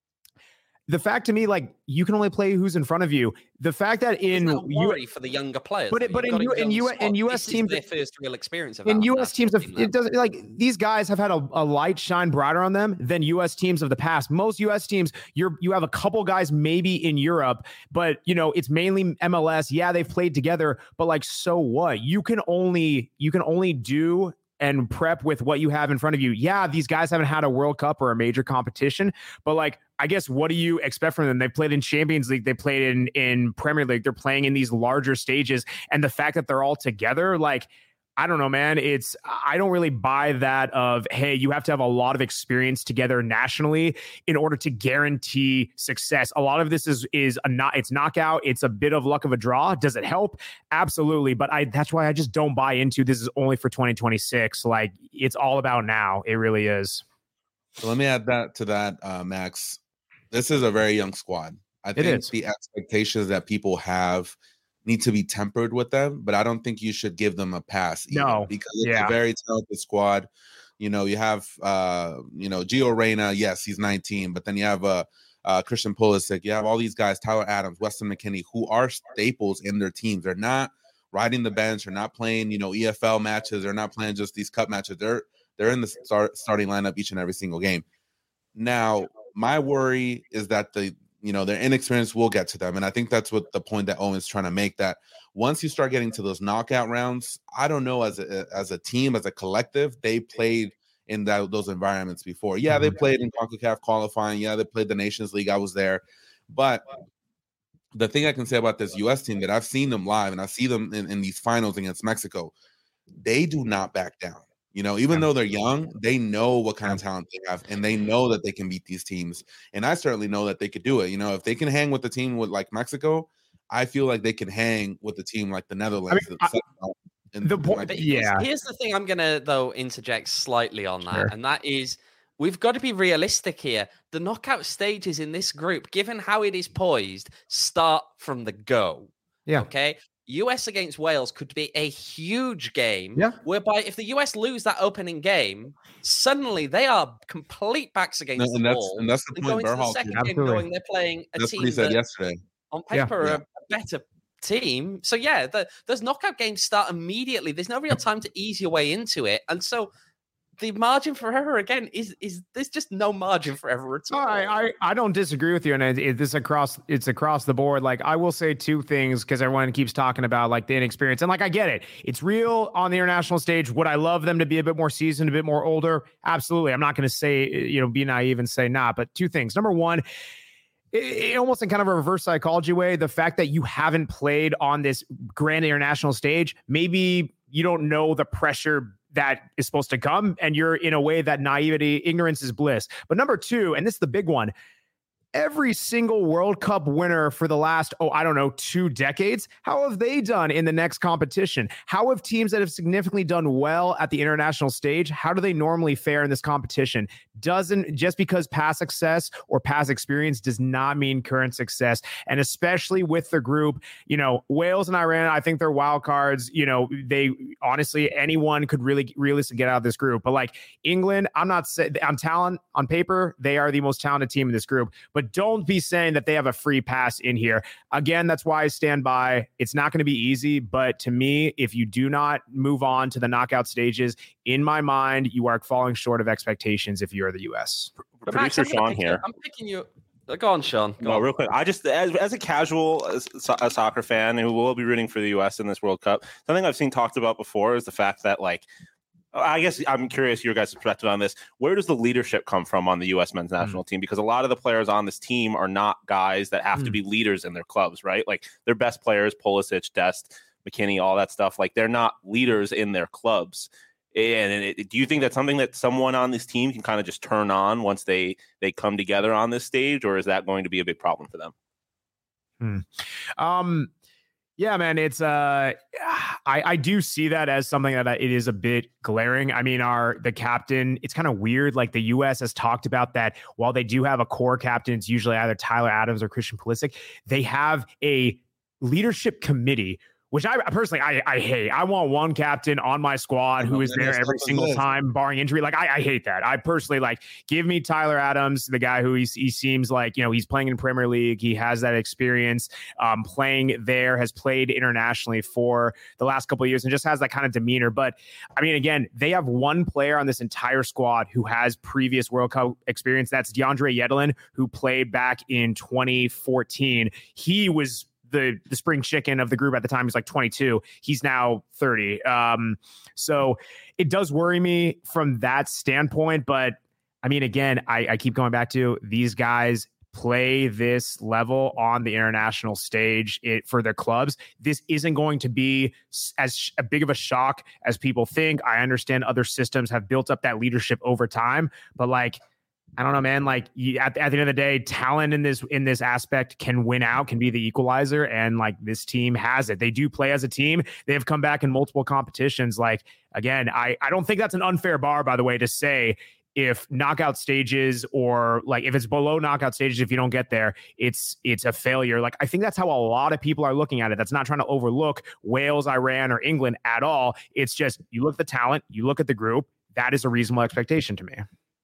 the fact to me, like you can only play who's in front of you. The fact that in worry for the younger players, but it, but in, U, in, U, in U S teams, their first real experience of in U S teams, of, it doesn't like these guys have had a, a light shine brighter on them than U S teams of the past. Most U S teams, you're you have a couple guys maybe in Europe, but you know it's mainly M L S. Yeah, they've played together, but like so what? You can only you can only do and prep with what you have in front of you. Yeah, these guys haven't had a World Cup or a major competition, but like, I guess, what do you expect from them? They played in Champions League. They played in, in Premier League. They're playing in these larger stages. And the fact that they're all together, like, I don't know, man. It's, I don't really buy that of, hey, you have to have a lot of experience together nationally in order to guarantee success. A lot of this is, is a not, it's knockout. It's a bit of luck of a draw. Does it help? Absolutely. But I, that's why I just don't buy into this is only for twenty twenty-six. Like it's all about now. It really is. So let me add that to that, uh, Max. This is a very young squad. I think the expectations that people have need to be tempered with them, but I don't think you should give them a pass. Either, no, because it's yeah. a very talented squad. You know, you have, uh, you know, Gio Reyna. Yes, he's nineteen, but then you have uh, uh, Christian Pulisic. You have all these guys, Tyler Adams, Weston McKennie, who are staples in their teams. They're not riding the bench. They're not playing, you know, E F L matches. They're not playing just these cup matches. They're they're in the start, starting lineup each and every single game. Now, my worry is that the you know, their inexperience will get to them. And I think that's what the point that Owen's trying to make, that once you start getting to those knockout rounds, I don't know, as a, as a team, as a collective, they played in that, those environments before. Yeah, they played in CONCACAF qualifying. Yeah, they played the Nations League. I was there. But the thing I can say about this U S team that I've seen them live and I see them in, in these finals against Mexico, they do not back down. You know, even though they're young, they know what kind of talent they have, and they know that they can beat these teams. And I certainly know that they could do it. You know, if they can hang with the team with like Mexico, I feel like they can hang with the team like the Netherlands. I mean, I, and the point, like, yeah. Here's the thing: I'm gonna though interject slightly on that, sure. and that is we've got to be realistic here. The knockout stages in this group, given how it is poised, start from the go. Yeah. Okay. U S against Wales could be a huge game, yeah. whereby if the U S lose that opening game, suddenly they are complete backs against no, and the that's, wall. And that's the and point. Going to the second game, knowing they're playing a that's team what he said that, yesterday. on paper, yeah. are a better team. So yeah, the, those knockout games start immediately. There's no real time to ease your way into it. And so the margin for error again is is there's just no margin for error at all. I, I I don't disagree with you, and it, it, this across it's across the board. Like I will say two things because everyone keeps talking about like the inexperience, and like I get it, it's real on the international stage. Would I love them to be a bit more seasoned, a bit more older? Absolutely. I'm not going to say you know be naive and say not, but two things. Number one. It, it almost in kind of a reverse psychology way, the fact that you haven't played on this grand international stage, maybe you don't know the pressure that is supposed to come, and you're in a way that naivety, ignorance is bliss. But number two, and this is the big one, every single World Cup winner for the last, oh, I don't know, two decades, how have they done in the next competition? How have teams that have significantly done well at the international stage, how do they normally fare in this competition? Doesn't, just because past success or past experience does not mean current success. And especially with the group, you know, Wales and Iran, I think they're wild cards. You know, they honestly, anyone could really realistically get out of this group. But like England, I'm not saying on talent, on paper, they are the most talented team in this group. But don't be saying that they have a free pass in here. Again, that's why I stand by. It's not going to be easy, but to me, if you do not move on to the knockout stages, in my mind, you are falling short of expectations if you're the U S. But Producer Max, Sean here. I'm picking you. Go on, Sean. Go no, on. real quick. I just, as, as a casual as, a soccer fan who will be rooting for the U S in this World Cup, something I've seen talked about before is the fact that, like, I guess I'm curious your guys' perspective on this. Where does the leadership come from on the U S men's national mm. team? Because a lot of the players on this team are not guys that have mm. to be leaders in their clubs, right? Like their best players, Pulisic, Dest, McKinney, all that stuff. Like they're not leaders in their clubs. And it, do you think that's something that someone on this team can kind of just turn on once they they come together on this stage, or is that going to be a big problem for them? Hmm. Um. Yeah, man, it's uh, I I do see that as something that it is a bit glaring. I mean, our the captain, it's kind of weird. Like the U S has talked about that while they do have a core captain, it's usually either Tyler Adams or Christian Pulisic. They have a leadership committee, which I personally, I, I hate. I want one captain on my squad who is there every single time, barring injury. Like, I, I hate that. I personally, like, give me Tyler Adams, the guy who he, he seems like, you know, he's playing in Premier League. He has that experience um, playing there, has played internationally for the last couple of years and just has that kind of demeanor. But, I mean, again, they have one player on this entire squad who has previous World Cup experience. That's DeAndre Yedlin, who played back in twenty fourteen. He was the the spring chicken of the group at the time. He's like twenty-two. He's now thirty. Um, so it does worry me from that standpoint. But I mean, again, I, I keep going back to these guys play this level on the international stage it, for their clubs. This isn't going to be as sh- big of a shock as people think. I understand other systems have built up that leadership over time, but like, I don't know, man. Like you, at, at the end of the day, talent in this in this aspect can win out, can be the equalizer, and like this team has it. They do play as a team. They have come back in multiple competitions. Like again, I I don't think that's an unfair bar, by the way, to say if knockout stages or like if it's below knockout stages, if you don't get there, it's it's a failure. Like I think that's how a lot of people are looking at it. That's not trying to overlook Wales, Iran, or England at all. It's just you look at the talent, you look at the group. That is a reasonable expectation to me.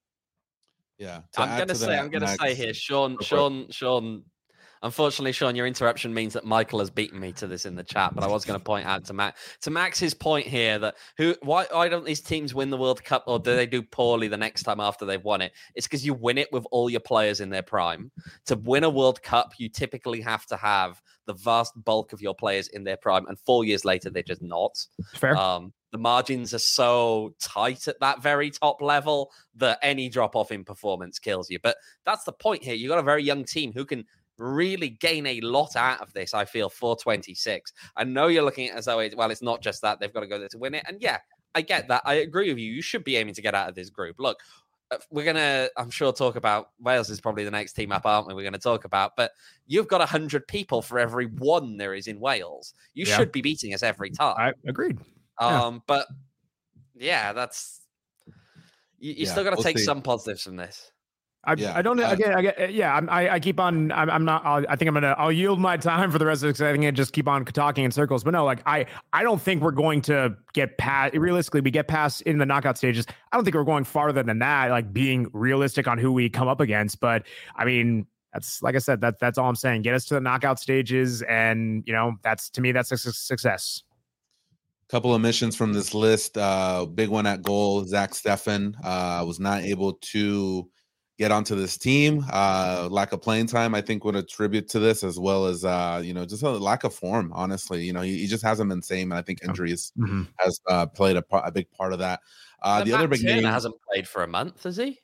Yeah, to I'm gonna say, that, I'm gonna Max, say here, Sean, Sean, Sean. Unfortunately, Sean, your interruption means that Michael has beaten me to this in the chat. But I was going to point out to Max, to Max's point here that who, why, why don't these teams win the World Cup, or do they do poorly the next time after they've won it? It's because you win it with all your players in their prime. To win a World Cup, you typically have to have the vast bulk of your players in their prime, and four years later, they're just not. Fair. Um, The margins are so tight at that very top level that any drop off in performance kills you. But that's the point here. You've got a very young team who can really gain a lot out of this, I feel, for twenty-six. I know you're looking at it as though, it, well, it's not just that. They've got to go there to win it. And yeah, I get that. I agree with you. You should be aiming to get out of this group. Look, we're going to, I'm sure, talk about Wales is probably the next team up, aren't we? We're going to talk about, but you've got one hundred people for every one there is in Wales. You yeah. should be beating us every time. I agreed. Um, yeah. But yeah, that's you, you yeah, still got to we'll take see. some positives from this. I, yeah. I don't uh, again. I get, yeah, I'm, I, I keep on. I'm, I'm not. I'll, I think I'm gonna. I'll yield my time for the rest of this. I think I just keep on talking in circles. But no, like I, I don't think we're going to get past. Realistically, we get past in the knockout stages. I don't think we're going farther than that. Like being realistic on who we come up against. But I mean, that's like I said, that that's all I'm saying. Get us to the knockout stages, and you know, that's to me, that's a su- success. Couple of missions from this list. Uh, big one at goal. Zach Steffen uh, was not able to get onto this team. Uh, lack of playing time, I think, would attribute to this, as well as uh, you know, just a lack of form. Honestly, you know, he, he just hasn't been same, and I think injuries Mm-hmm. has uh, played a, a big part of that. Uh, the Matt other big Turner name hasn't played for a month, has he?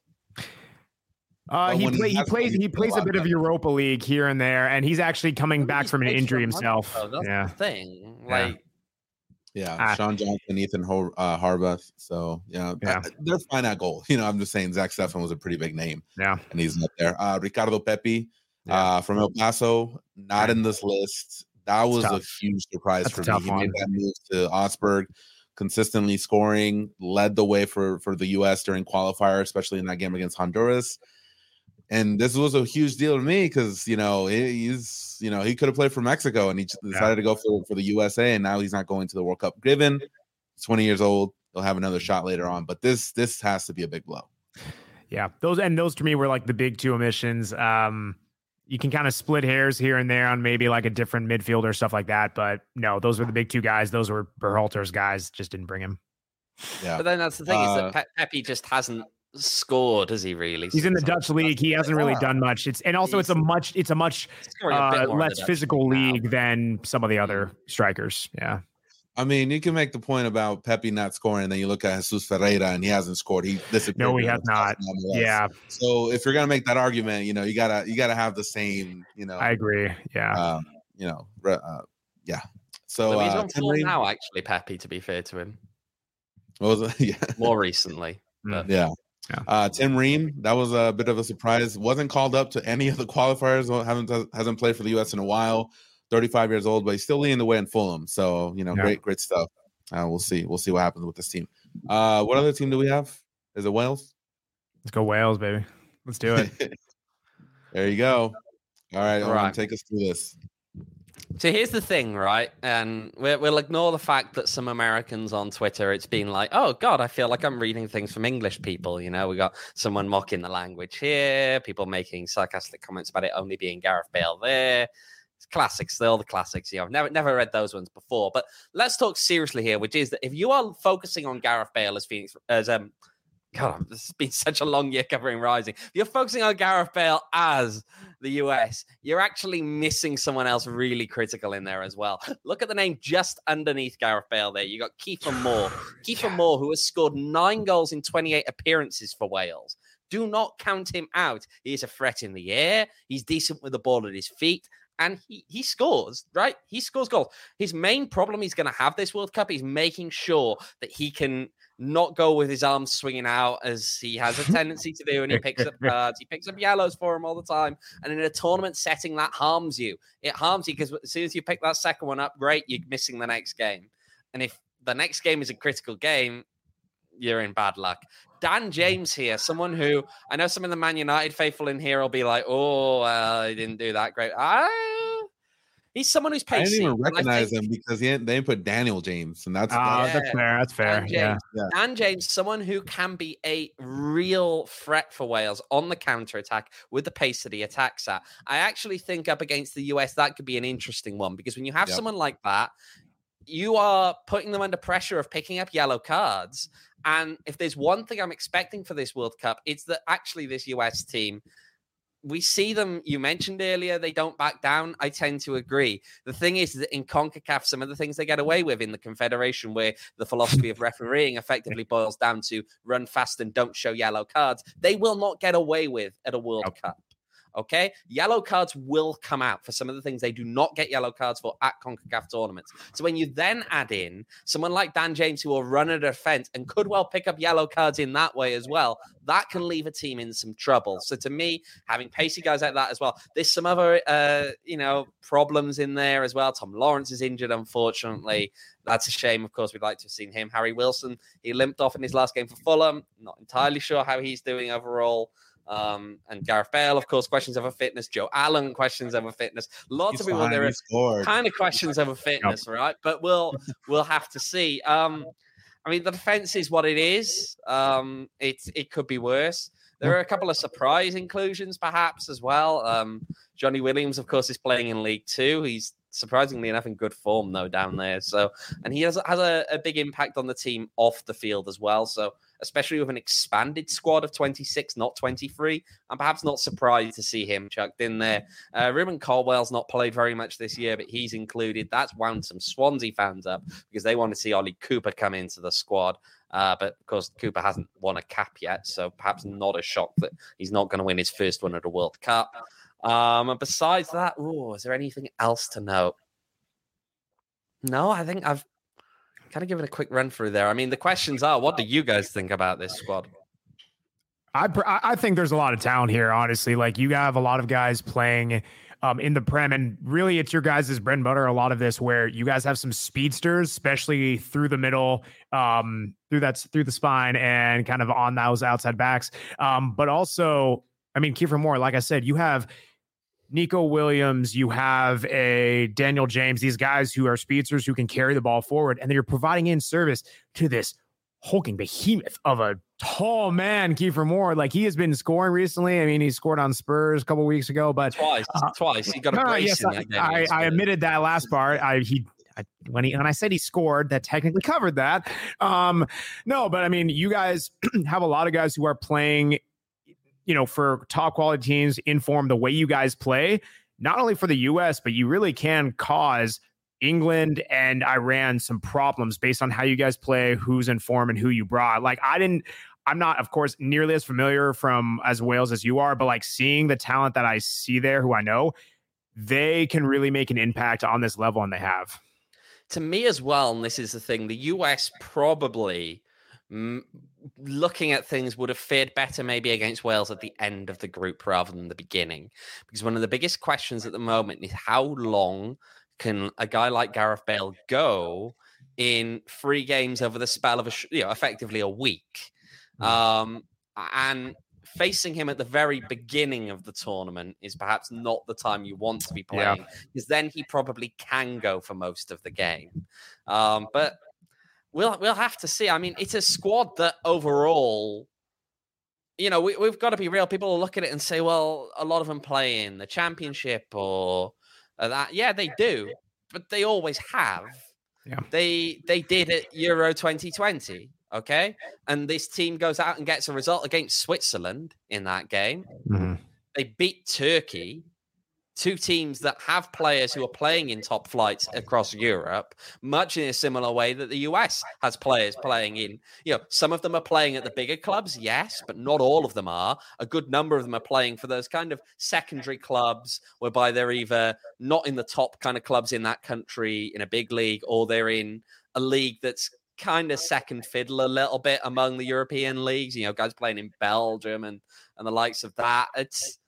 Uh, But he when he play, he has plays played, he he's plays a a lot bit of better. Europa League here and there, and he's actually coming back He's from an played for injury a month, himself. though, That's Yeah, the thing. Yeah. Like, Yeah, Ah. Sean Johnson, Ethan Ho- uh, Harbath. So yeah, Yeah. I- they're fine at goal. You know, I'm just saying Zach Steffen was a pretty big name, yeah, and he's not there. Uh, Ricardo Pepi Yeah. uh, from El Paso, not Right. in this list. That was a tough. huge surprise That's a for me. tough He one. made that move to Augsburg, consistently scoring, led the way for for the U S during qualifier, especially in that game against Honduras. And this was a huge deal to me because you know he- he's you know he could have played for Mexico, and he ch- decided to go for for the U S A, and now he's not going to the World Cup. Given he's twenty years old, he'll have another shot later on, but this this has to be a big blow. yeah. Those and those to me were like the big two omissions. Um, you can kind of split hairs here and there on maybe like a different midfielder, stuff like that. But no, those were the big two guys. Those were Berhalter's guys. Just didn't bring him. Yeah, but then that's the thing is Uh, that Pe- Pepe just hasn't scored, has he? Really? He's in the So Dutch league. He hasn't really Yeah. done much. It's and also it's a He's- much it's a much scoring a bit uh, more in the less Dutch physical league now. league than some of the other strikers. Yeah. I mean, you can make the point about Pepe not scoring, and then you look at Jesus Ferreira, and he hasn't scored. He disappeared. No, he in has the not. playoffs nonetheless. Yeah, So if you're gonna make that argument, you know, you gotta you gotta have the same, you know, I agree. Yeah. um, you know, re- uh, yeah. So Well, he's uh, on Tim form Ream- now, actually, Pepe, to be fair to him. what was it? yeah, More recently. But yeah. Yeah. Uh, Tim Ream, that was a bit of a surprise. Wasn't called up to any of the qualifiers. Well, haven't hasn't played for the U S in a while. thirty-five years old, but he's still leading the way in Fulham. So you know, Yeah. great, great stuff. Uh, we'll see. We'll see what happens with this team. Uh, what other team do we have? Is it Wales? Let's go Wales, baby. Let's do it. There you go. All right, Owen, Right. take us through this. So here's the thing, right? And we'll, we'll ignore the fact that some Americans on Twitter, it's been like, oh, God, I feel like I'm reading things from English people. You know, we got someone mocking the language here, people making sarcastic comments about it only being Gareth Bale there. It's classics, they're all the classics. You know, I've never, never read those ones before. But let's talk seriously here, which is that if you are focusing on Gareth Bale as Phoenix, as um, God, this has been such a long year covering Rising. If you're focusing on Gareth Bale as the U S, you're actually missing someone else really critical in there as well. Look at the name just underneath Gareth Bale there. You got Kiefer Moore. Kiefer Moore, who has scored nine goals in twenty-eight appearances for Wales. Do not count him out. He is a threat in the air. He's decent with the ball at his feet. And he, he scores, right? He scores goals. His main problem he's going to have this World Cup is making sure that he can not go with his arms swinging out as he has a tendency to do, and he picks up cards. He picks up yellows for him all the time. And in a tournament setting, that harms you. It harms you because as soon as you pick that second one up, great, you're missing the next game. And if the next game is a critical game, you're in bad luck. Dan James here, someone who I know some of the Man United faithful in here will be like, oh, uh, he didn't do that great. I, he's someone who's I pacey. didn't even and I recognize think him because he didn't, they didn't put Daniel James, and that's, Oh, that's that's Yeah. fair. That's fair. Dan Yeah. James, Dan James, someone who can be a real threat for Wales on the counter attack with the pace that he attacks at. I actually think up against the U S, that could be an interesting one because when you have Yep. someone like that, you are putting them under pressure of picking up yellow cards. And if there's one thing I'm expecting for this World Cup, it's that actually this U S team, we see them, you mentioned earlier, they don't back down. I tend to agree. The thing is that in CONCACAF, some of the things they get away with in the Confederation, where the philosophy of refereeing effectively boils down to run fast and don't show yellow cards, they will not get away with at a World Nope. Cup. Okay, yellow cards will come out for some of the things they do not get yellow cards for at CONCACAF tournaments. So when you then add in someone like Dan James, who will run a defense and could well pick up yellow cards in that way as well, that can leave a team in some trouble. So to me, having pacey guys like that as well, there's some other, uh, you know, problems in there as well. Tom Lawrence is injured, unfortunately. That's a shame. Of course, we'd like to have seen him. Harry Wilson, he limped off in his last game for Fulham. Not entirely sure how he's doing overall. Um, and Gareth Bale, of course, questions over fitness. Joe Allen, questions over fitness. Lots He's of people fine, there he are scored. kind of questions over fitness, right? But we'll we'll have to see. Um, I mean, the defense is what it is. Um, it it could be worse. There are a couple of surprise inclusions, perhaps, as well. Um, Johnny Williams, of course, is playing in League Two. He's surprisingly enough in good form, though, down there. So, and he has, has a, a big impact on the team off the field as well. So, especially with an expanded squad of twenty-six, not twenty-three, I'm perhaps not surprised to see him chucked in there. Uh, Ruben Caldwell's not played very much this year, but he's included. That's wound some Swansea fans up because they want to see Ollie Cooper come into the squad. Uh, but of course, Cooper hasn't won a cap yet, so perhaps not a shock that he's not going to win his first one at a World Cup. Um, and besides that, ooh, is there anything else to note? No, I think I've kind of given a quick run through there. I mean, the questions are, what do you guys think about this squad? I I think there's a lot of talent here, honestly. Like, you have a lot of guys playing um, in the Prem, and really it's your guys' bread and butter, a lot of this, where you guys have some speedsters, especially through the middle, um, through that through the spine and kind of on those outside backs. Um, but also, I mean, Kiefer Moore, like I said, you have Nico Williams, you have a Daniel James, these guys who are speedsters who can carry the ball forward, and then you're providing in service to this hulking behemoth of a tall man, Kiefer Moore. Like, he has been scoring recently. I mean, he scored on Spurs a couple weeks ago, but twice, uh, twice. He got a no, brace yes, in that game. I, I, I admitted that last part. I he I, when he when I said he scored, that technically covered that. Um, no, but I mean, you guys have a lot of guys who are playing, you know, for top quality teams in form the way you guys play, not only for the U S, but you really can cause England and Iran some problems based on how you guys play, who's in form and who you brought. Like, I didn't, I'm not, of course, nearly as familiar from as Wales as you are, but like, seeing the talent that I see there, who I know, they can really make an impact on this level, and they have. To me as well, and this is the thing, the U S probably, mm, looking at things, would have fared better maybe against Wales at the end of the group rather than the beginning. Because one of the biggest questions at the moment is how long can a guy like Gareth Bale go in three games over the spell of, a, you know, effectively a week? Um, and facing him at the very beginning of the tournament is perhaps not the time you want to be playing, because yeah. then he probably can go for most of the game. Um, but we'll we'll have to see. I mean, it's a squad that overall, you know, we, we've got to be real. People will look at it and say, well, a lot of them play in the Championship or uh, that. Yeah, they do, but they always have. Yeah. They they did at Euro twenty twenty. Okay. And this team goes out and gets a result against Switzerland in that game. Mm-hmm. They beat Turkey, two teams that have players who are playing in top flights across Europe, much in a similar way that the U S has players playing in. You know, some of them are playing at the bigger clubs, yes, but not all of them are. A good number of them are playing for those kind of secondary clubs whereby they're either not in the top kind of clubs in that country in a big league, or they're in a league that's kind of second fiddle a little bit among the European leagues, you know, guys playing in Belgium and, and the likes of that. It's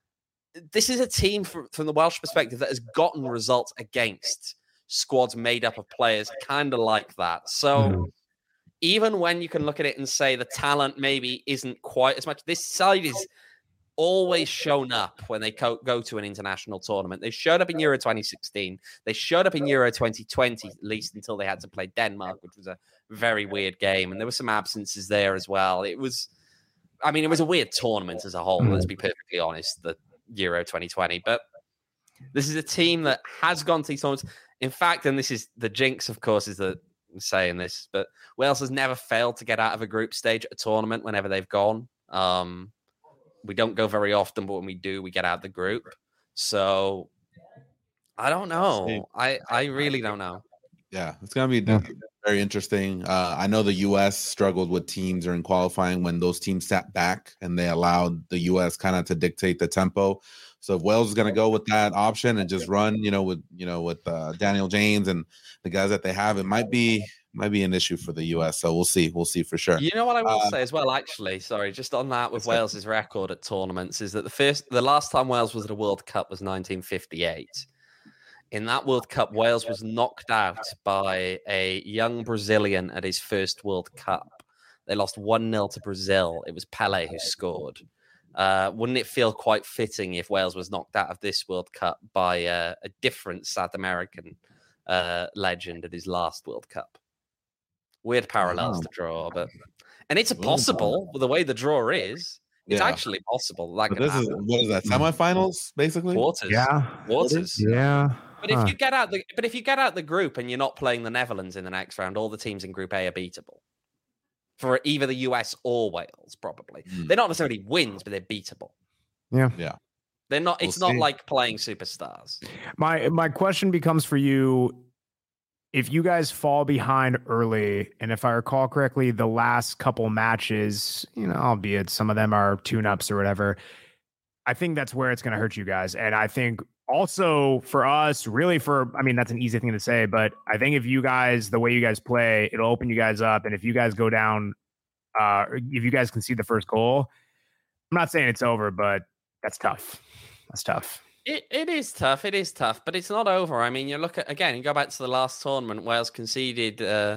this is a team from, from the Welsh perspective that has gotten results against squads made up of players kind of like that. So mm-hmm. even when you can look at it and say the talent maybe isn't quite as much, this side is always shown up when they co- go to an international tournament. They showed up in Euro twenty sixteen. They showed up in Euro twenty twenty, at least until they had to play Denmark, which was a very weird game. And there were some absences there as well. It was, I mean, it was a weird tournament as a whole, let's be perfectly honest, the Euro twenty twenty. But this is a team that has gone to these tournaments. In fact, and this is the jinx, of course, is that I'm saying this, but Wales has never failed to get out of a group stage at a tournament whenever they've gone. Um, We don't go very often, but when we do, we get out of the group. So I don't know. I, I really don't know. Yeah, it's going to be very interesting. Uh, I know the U S struggled with teams during qualifying when those teams sat back and they allowed the U S kind of to dictate the tempo. So if Wales is going to go with that option and just run, you know, with, you know, with uh, Daniel James and the guys that they have, it might be might be an issue for the U S. So we'll see. We'll see for sure. You know what I will uh, say as well, actually, sorry, just on that with Wales's record at tournaments is that the first, the last time Wales was at a World Cup was nineteen fifty-eight. In that World Cup, Wales was knocked out by a young Brazilian at his first World Cup. They lost one nil to Brazil. It was Pelé who scored. Uh, wouldn't it feel quite fitting if Wales was knocked out of this World Cup by uh, a different South American uh, legend at his last World Cup? Weird parallels to draw, but and it's possible with the way the draw is. It's Yeah. actually possible that But could this is happen. what is that? Semifinals, basically. Quarters. Yeah. Quarters. Yeah. But if you get out the but if you get out the group and you're not playing the Netherlands in the next round, all the teams in Group A are beatable. For either the U S or Wales, probably. Mm. They're not necessarily wins, but they're beatable. Yeah. Yeah. They're not We'll it's not see. like playing superstars. My my question becomes for you, if you guys fall behind early, and if I recall correctly, the last couple matches, you know, albeit some of them are tune-ups or whatever, I think that's where it's going to hurt you guys. And I think also for us, really for, I mean, that's an easy thing to say, but I think if you guys, the way you guys play, it'll open you guys up. And if you guys go down, uh, if you guys can see the first goal, I'm not saying it's over, but that's tough. That's tough. It it is tough. It is tough, but it's not over. I mean, you look at again, you go back to the last tournament, Wales conceded uh,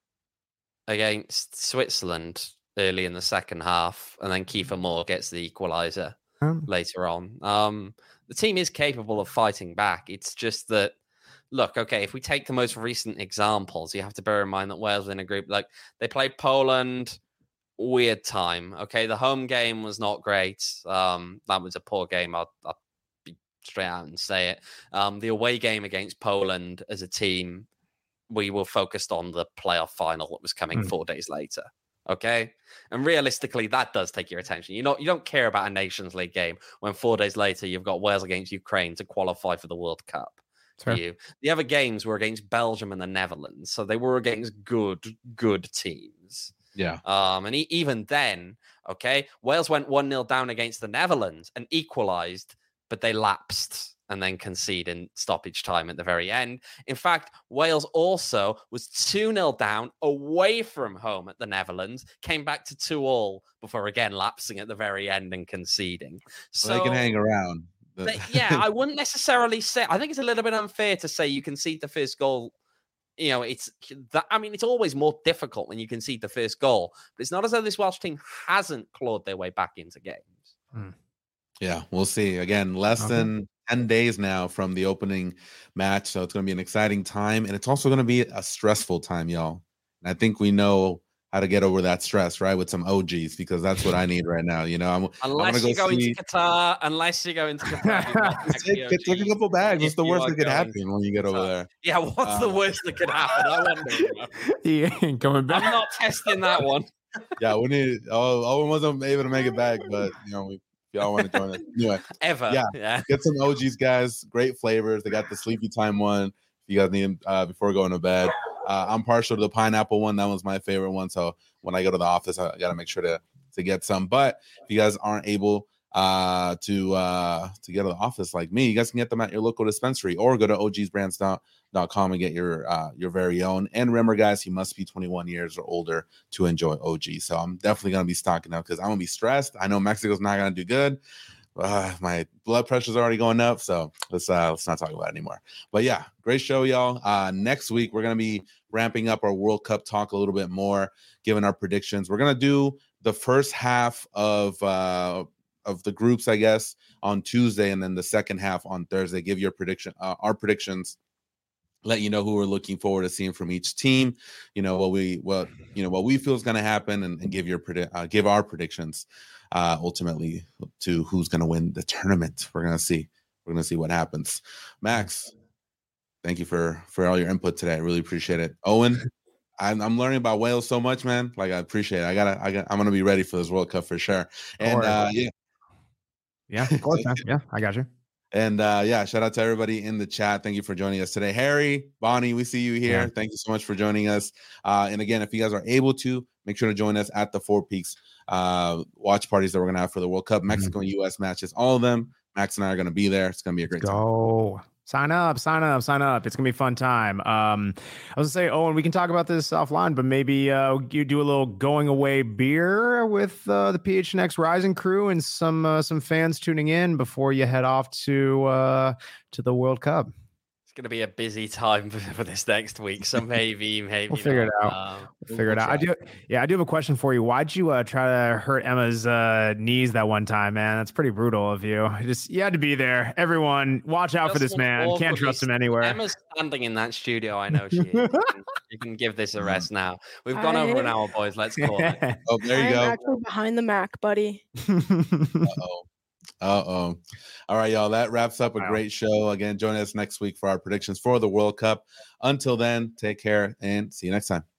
against Switzerland early in the second half, and then Kiefer Moore gets the equaliser Um, later on. Um, the team is capable of fighting back. It's just that, look, okay, if we take the most recent examples, you have to bear in mind that Wales were in a group like they played Poland. Weird time. Okay, the home game was not great. Um, that was a poor game. I'll, I'll be straight out and say it. Um, the away game against Poland as a team, we were focused on the playoff final that was coming Mm. four days later. Okay, and realistically, that does take your attention. You know, you don't care about a Nations League game when four days later you've got Wales against Ukraine to qualify for the World Cup. For you, the other games were against Belgium and the Netherlands, so they were against good, good teams. Yeah. Um, and e- even then, okay, Wales went one nil down against the Netherlands and equalized, but they lapsed and then conceded in stoppage time at the very end. In fact, Wales also was two nil down away from home at the Netherlands, came back to two all before again lapsing at the very end and conceding. So Well, they can hang around. The- they- yeah, I wouldn't necessarily say, I think it's a little bit unfair to say you concede the first goal. You know, it's that. I mean, it's always more difficult when you concede the first goal, but it's not as though this Welsh team hasn't clawed their way back into games. Yeah, we'll see. Again, less Okay. than ten days now from the opening match, so it's going to be an exciting time, and it's also going to be a stressful time, y'all. And I think we know how to get over that stress, right? With some O Gs, because that's what I need right now. You know, I'm Unless I'm you're gonna go going see. to Qatar, unless you're going to Qatar, you've got to Take, take take a the couple bags. What's if the you worst are that could going happen when you get over Qatar. there? Yeah, what's the Um, worst that could happen? I wonder. He ain't coming I'm back. not testing that one. Yeah, we need. Oh, Owen wasn't able to make it back, but you know, we, if y'all want to join us anyway. Ever. Yeah. Yeah. Get some O Gs, guys. Great flavors. They got the sleepy time one. If you guys need them uh, before going to bed. Uh, I'm partial to the pineapple one. That was my favorite one. So when I go to the office, I got to make sure to to get some. But if you guys aren't able uh, to uh, to get to the office like me, you guys can get them at your local dispensary or go to o gs brands dot com and get your uh, your very own. And remember, guys, you must be twenty-one years or older to enjoy O G. So I'm definitely gonna be stocking up because I'm gonna be stressed. I know Mexico's not gonna do good. Uh, my blood pressure's already going up, so let's uh, let's not talk about it anymore. But yeah, great show, y'all. Uh, next week we're gonna be ramping up our World Cup talk a little bit more, giving our predictions. We're gonna do the first half of uh, of the groups, I guess, on Tuesday, and then the second half on Thursday. Give your prediction, uh, our predictions. Let you know who we're looking forward to seeing from each team. You know what we what you know what we feel is going to happen, and, and give your predi- uh, give our predictions. Uh, ultimately, to who's going to win the tournament. We're going to see. We're going to see what happens. Max, thank you for for all your input today. I really appreciate it. Owen, I'm, I'm learning about Wales so much, man. Like I appreciate it. I gotta. I got. I'm going to be ready for this World Cup for sure. And uh, yeah, Yeah, of course, man. Yeah, I got you. And uh, yeah, shout out to everybody in the chat. Thank you for joining us today. Harry, Bonnie, we see you here. Yeah. Thank you so much for joining us. Uh, and again, if you guys are able to, make sure to join us at the Four Peaks uh, watch parties that we're going to have for the World Cup, Mexico and U S matches, all of them. Max and I are going to be there. It's going to be a great time. Go. Sign up, sign up, sign up. It's going to be a fun time. Um, I was going to say, Owen, we can talk about this offline, but maybe uh, you do a little going away beer with uh, the P H N X Rising crew and some uh, some fans tuning in before you head off to uh, to the World Cup. It's going to be a busy time for, for this next week. So maybe, maybe We'll figure not. it out. Um, We'll figure it out. I do. Yeah, I do have a question for you. Why'd you uh, try to hurt Emma's uh, knees that one time, man? That's pretty brutal of you. Just you had to be there. Everyone, watch out for this man. Can't trust him anywhere. Emma's standing in that studio. I know she is. You can, you can give this a rest now. We've gone I... over an hour, boys. Let's call it. Oh, there you I'm go. actually behind the Mac, buddy. Uh-oh. Uh-oh. All right, y'all. That wraps up a Wow. great show. Again, join us next week for our predictions for the World Cup. Until then, take care and see you next time.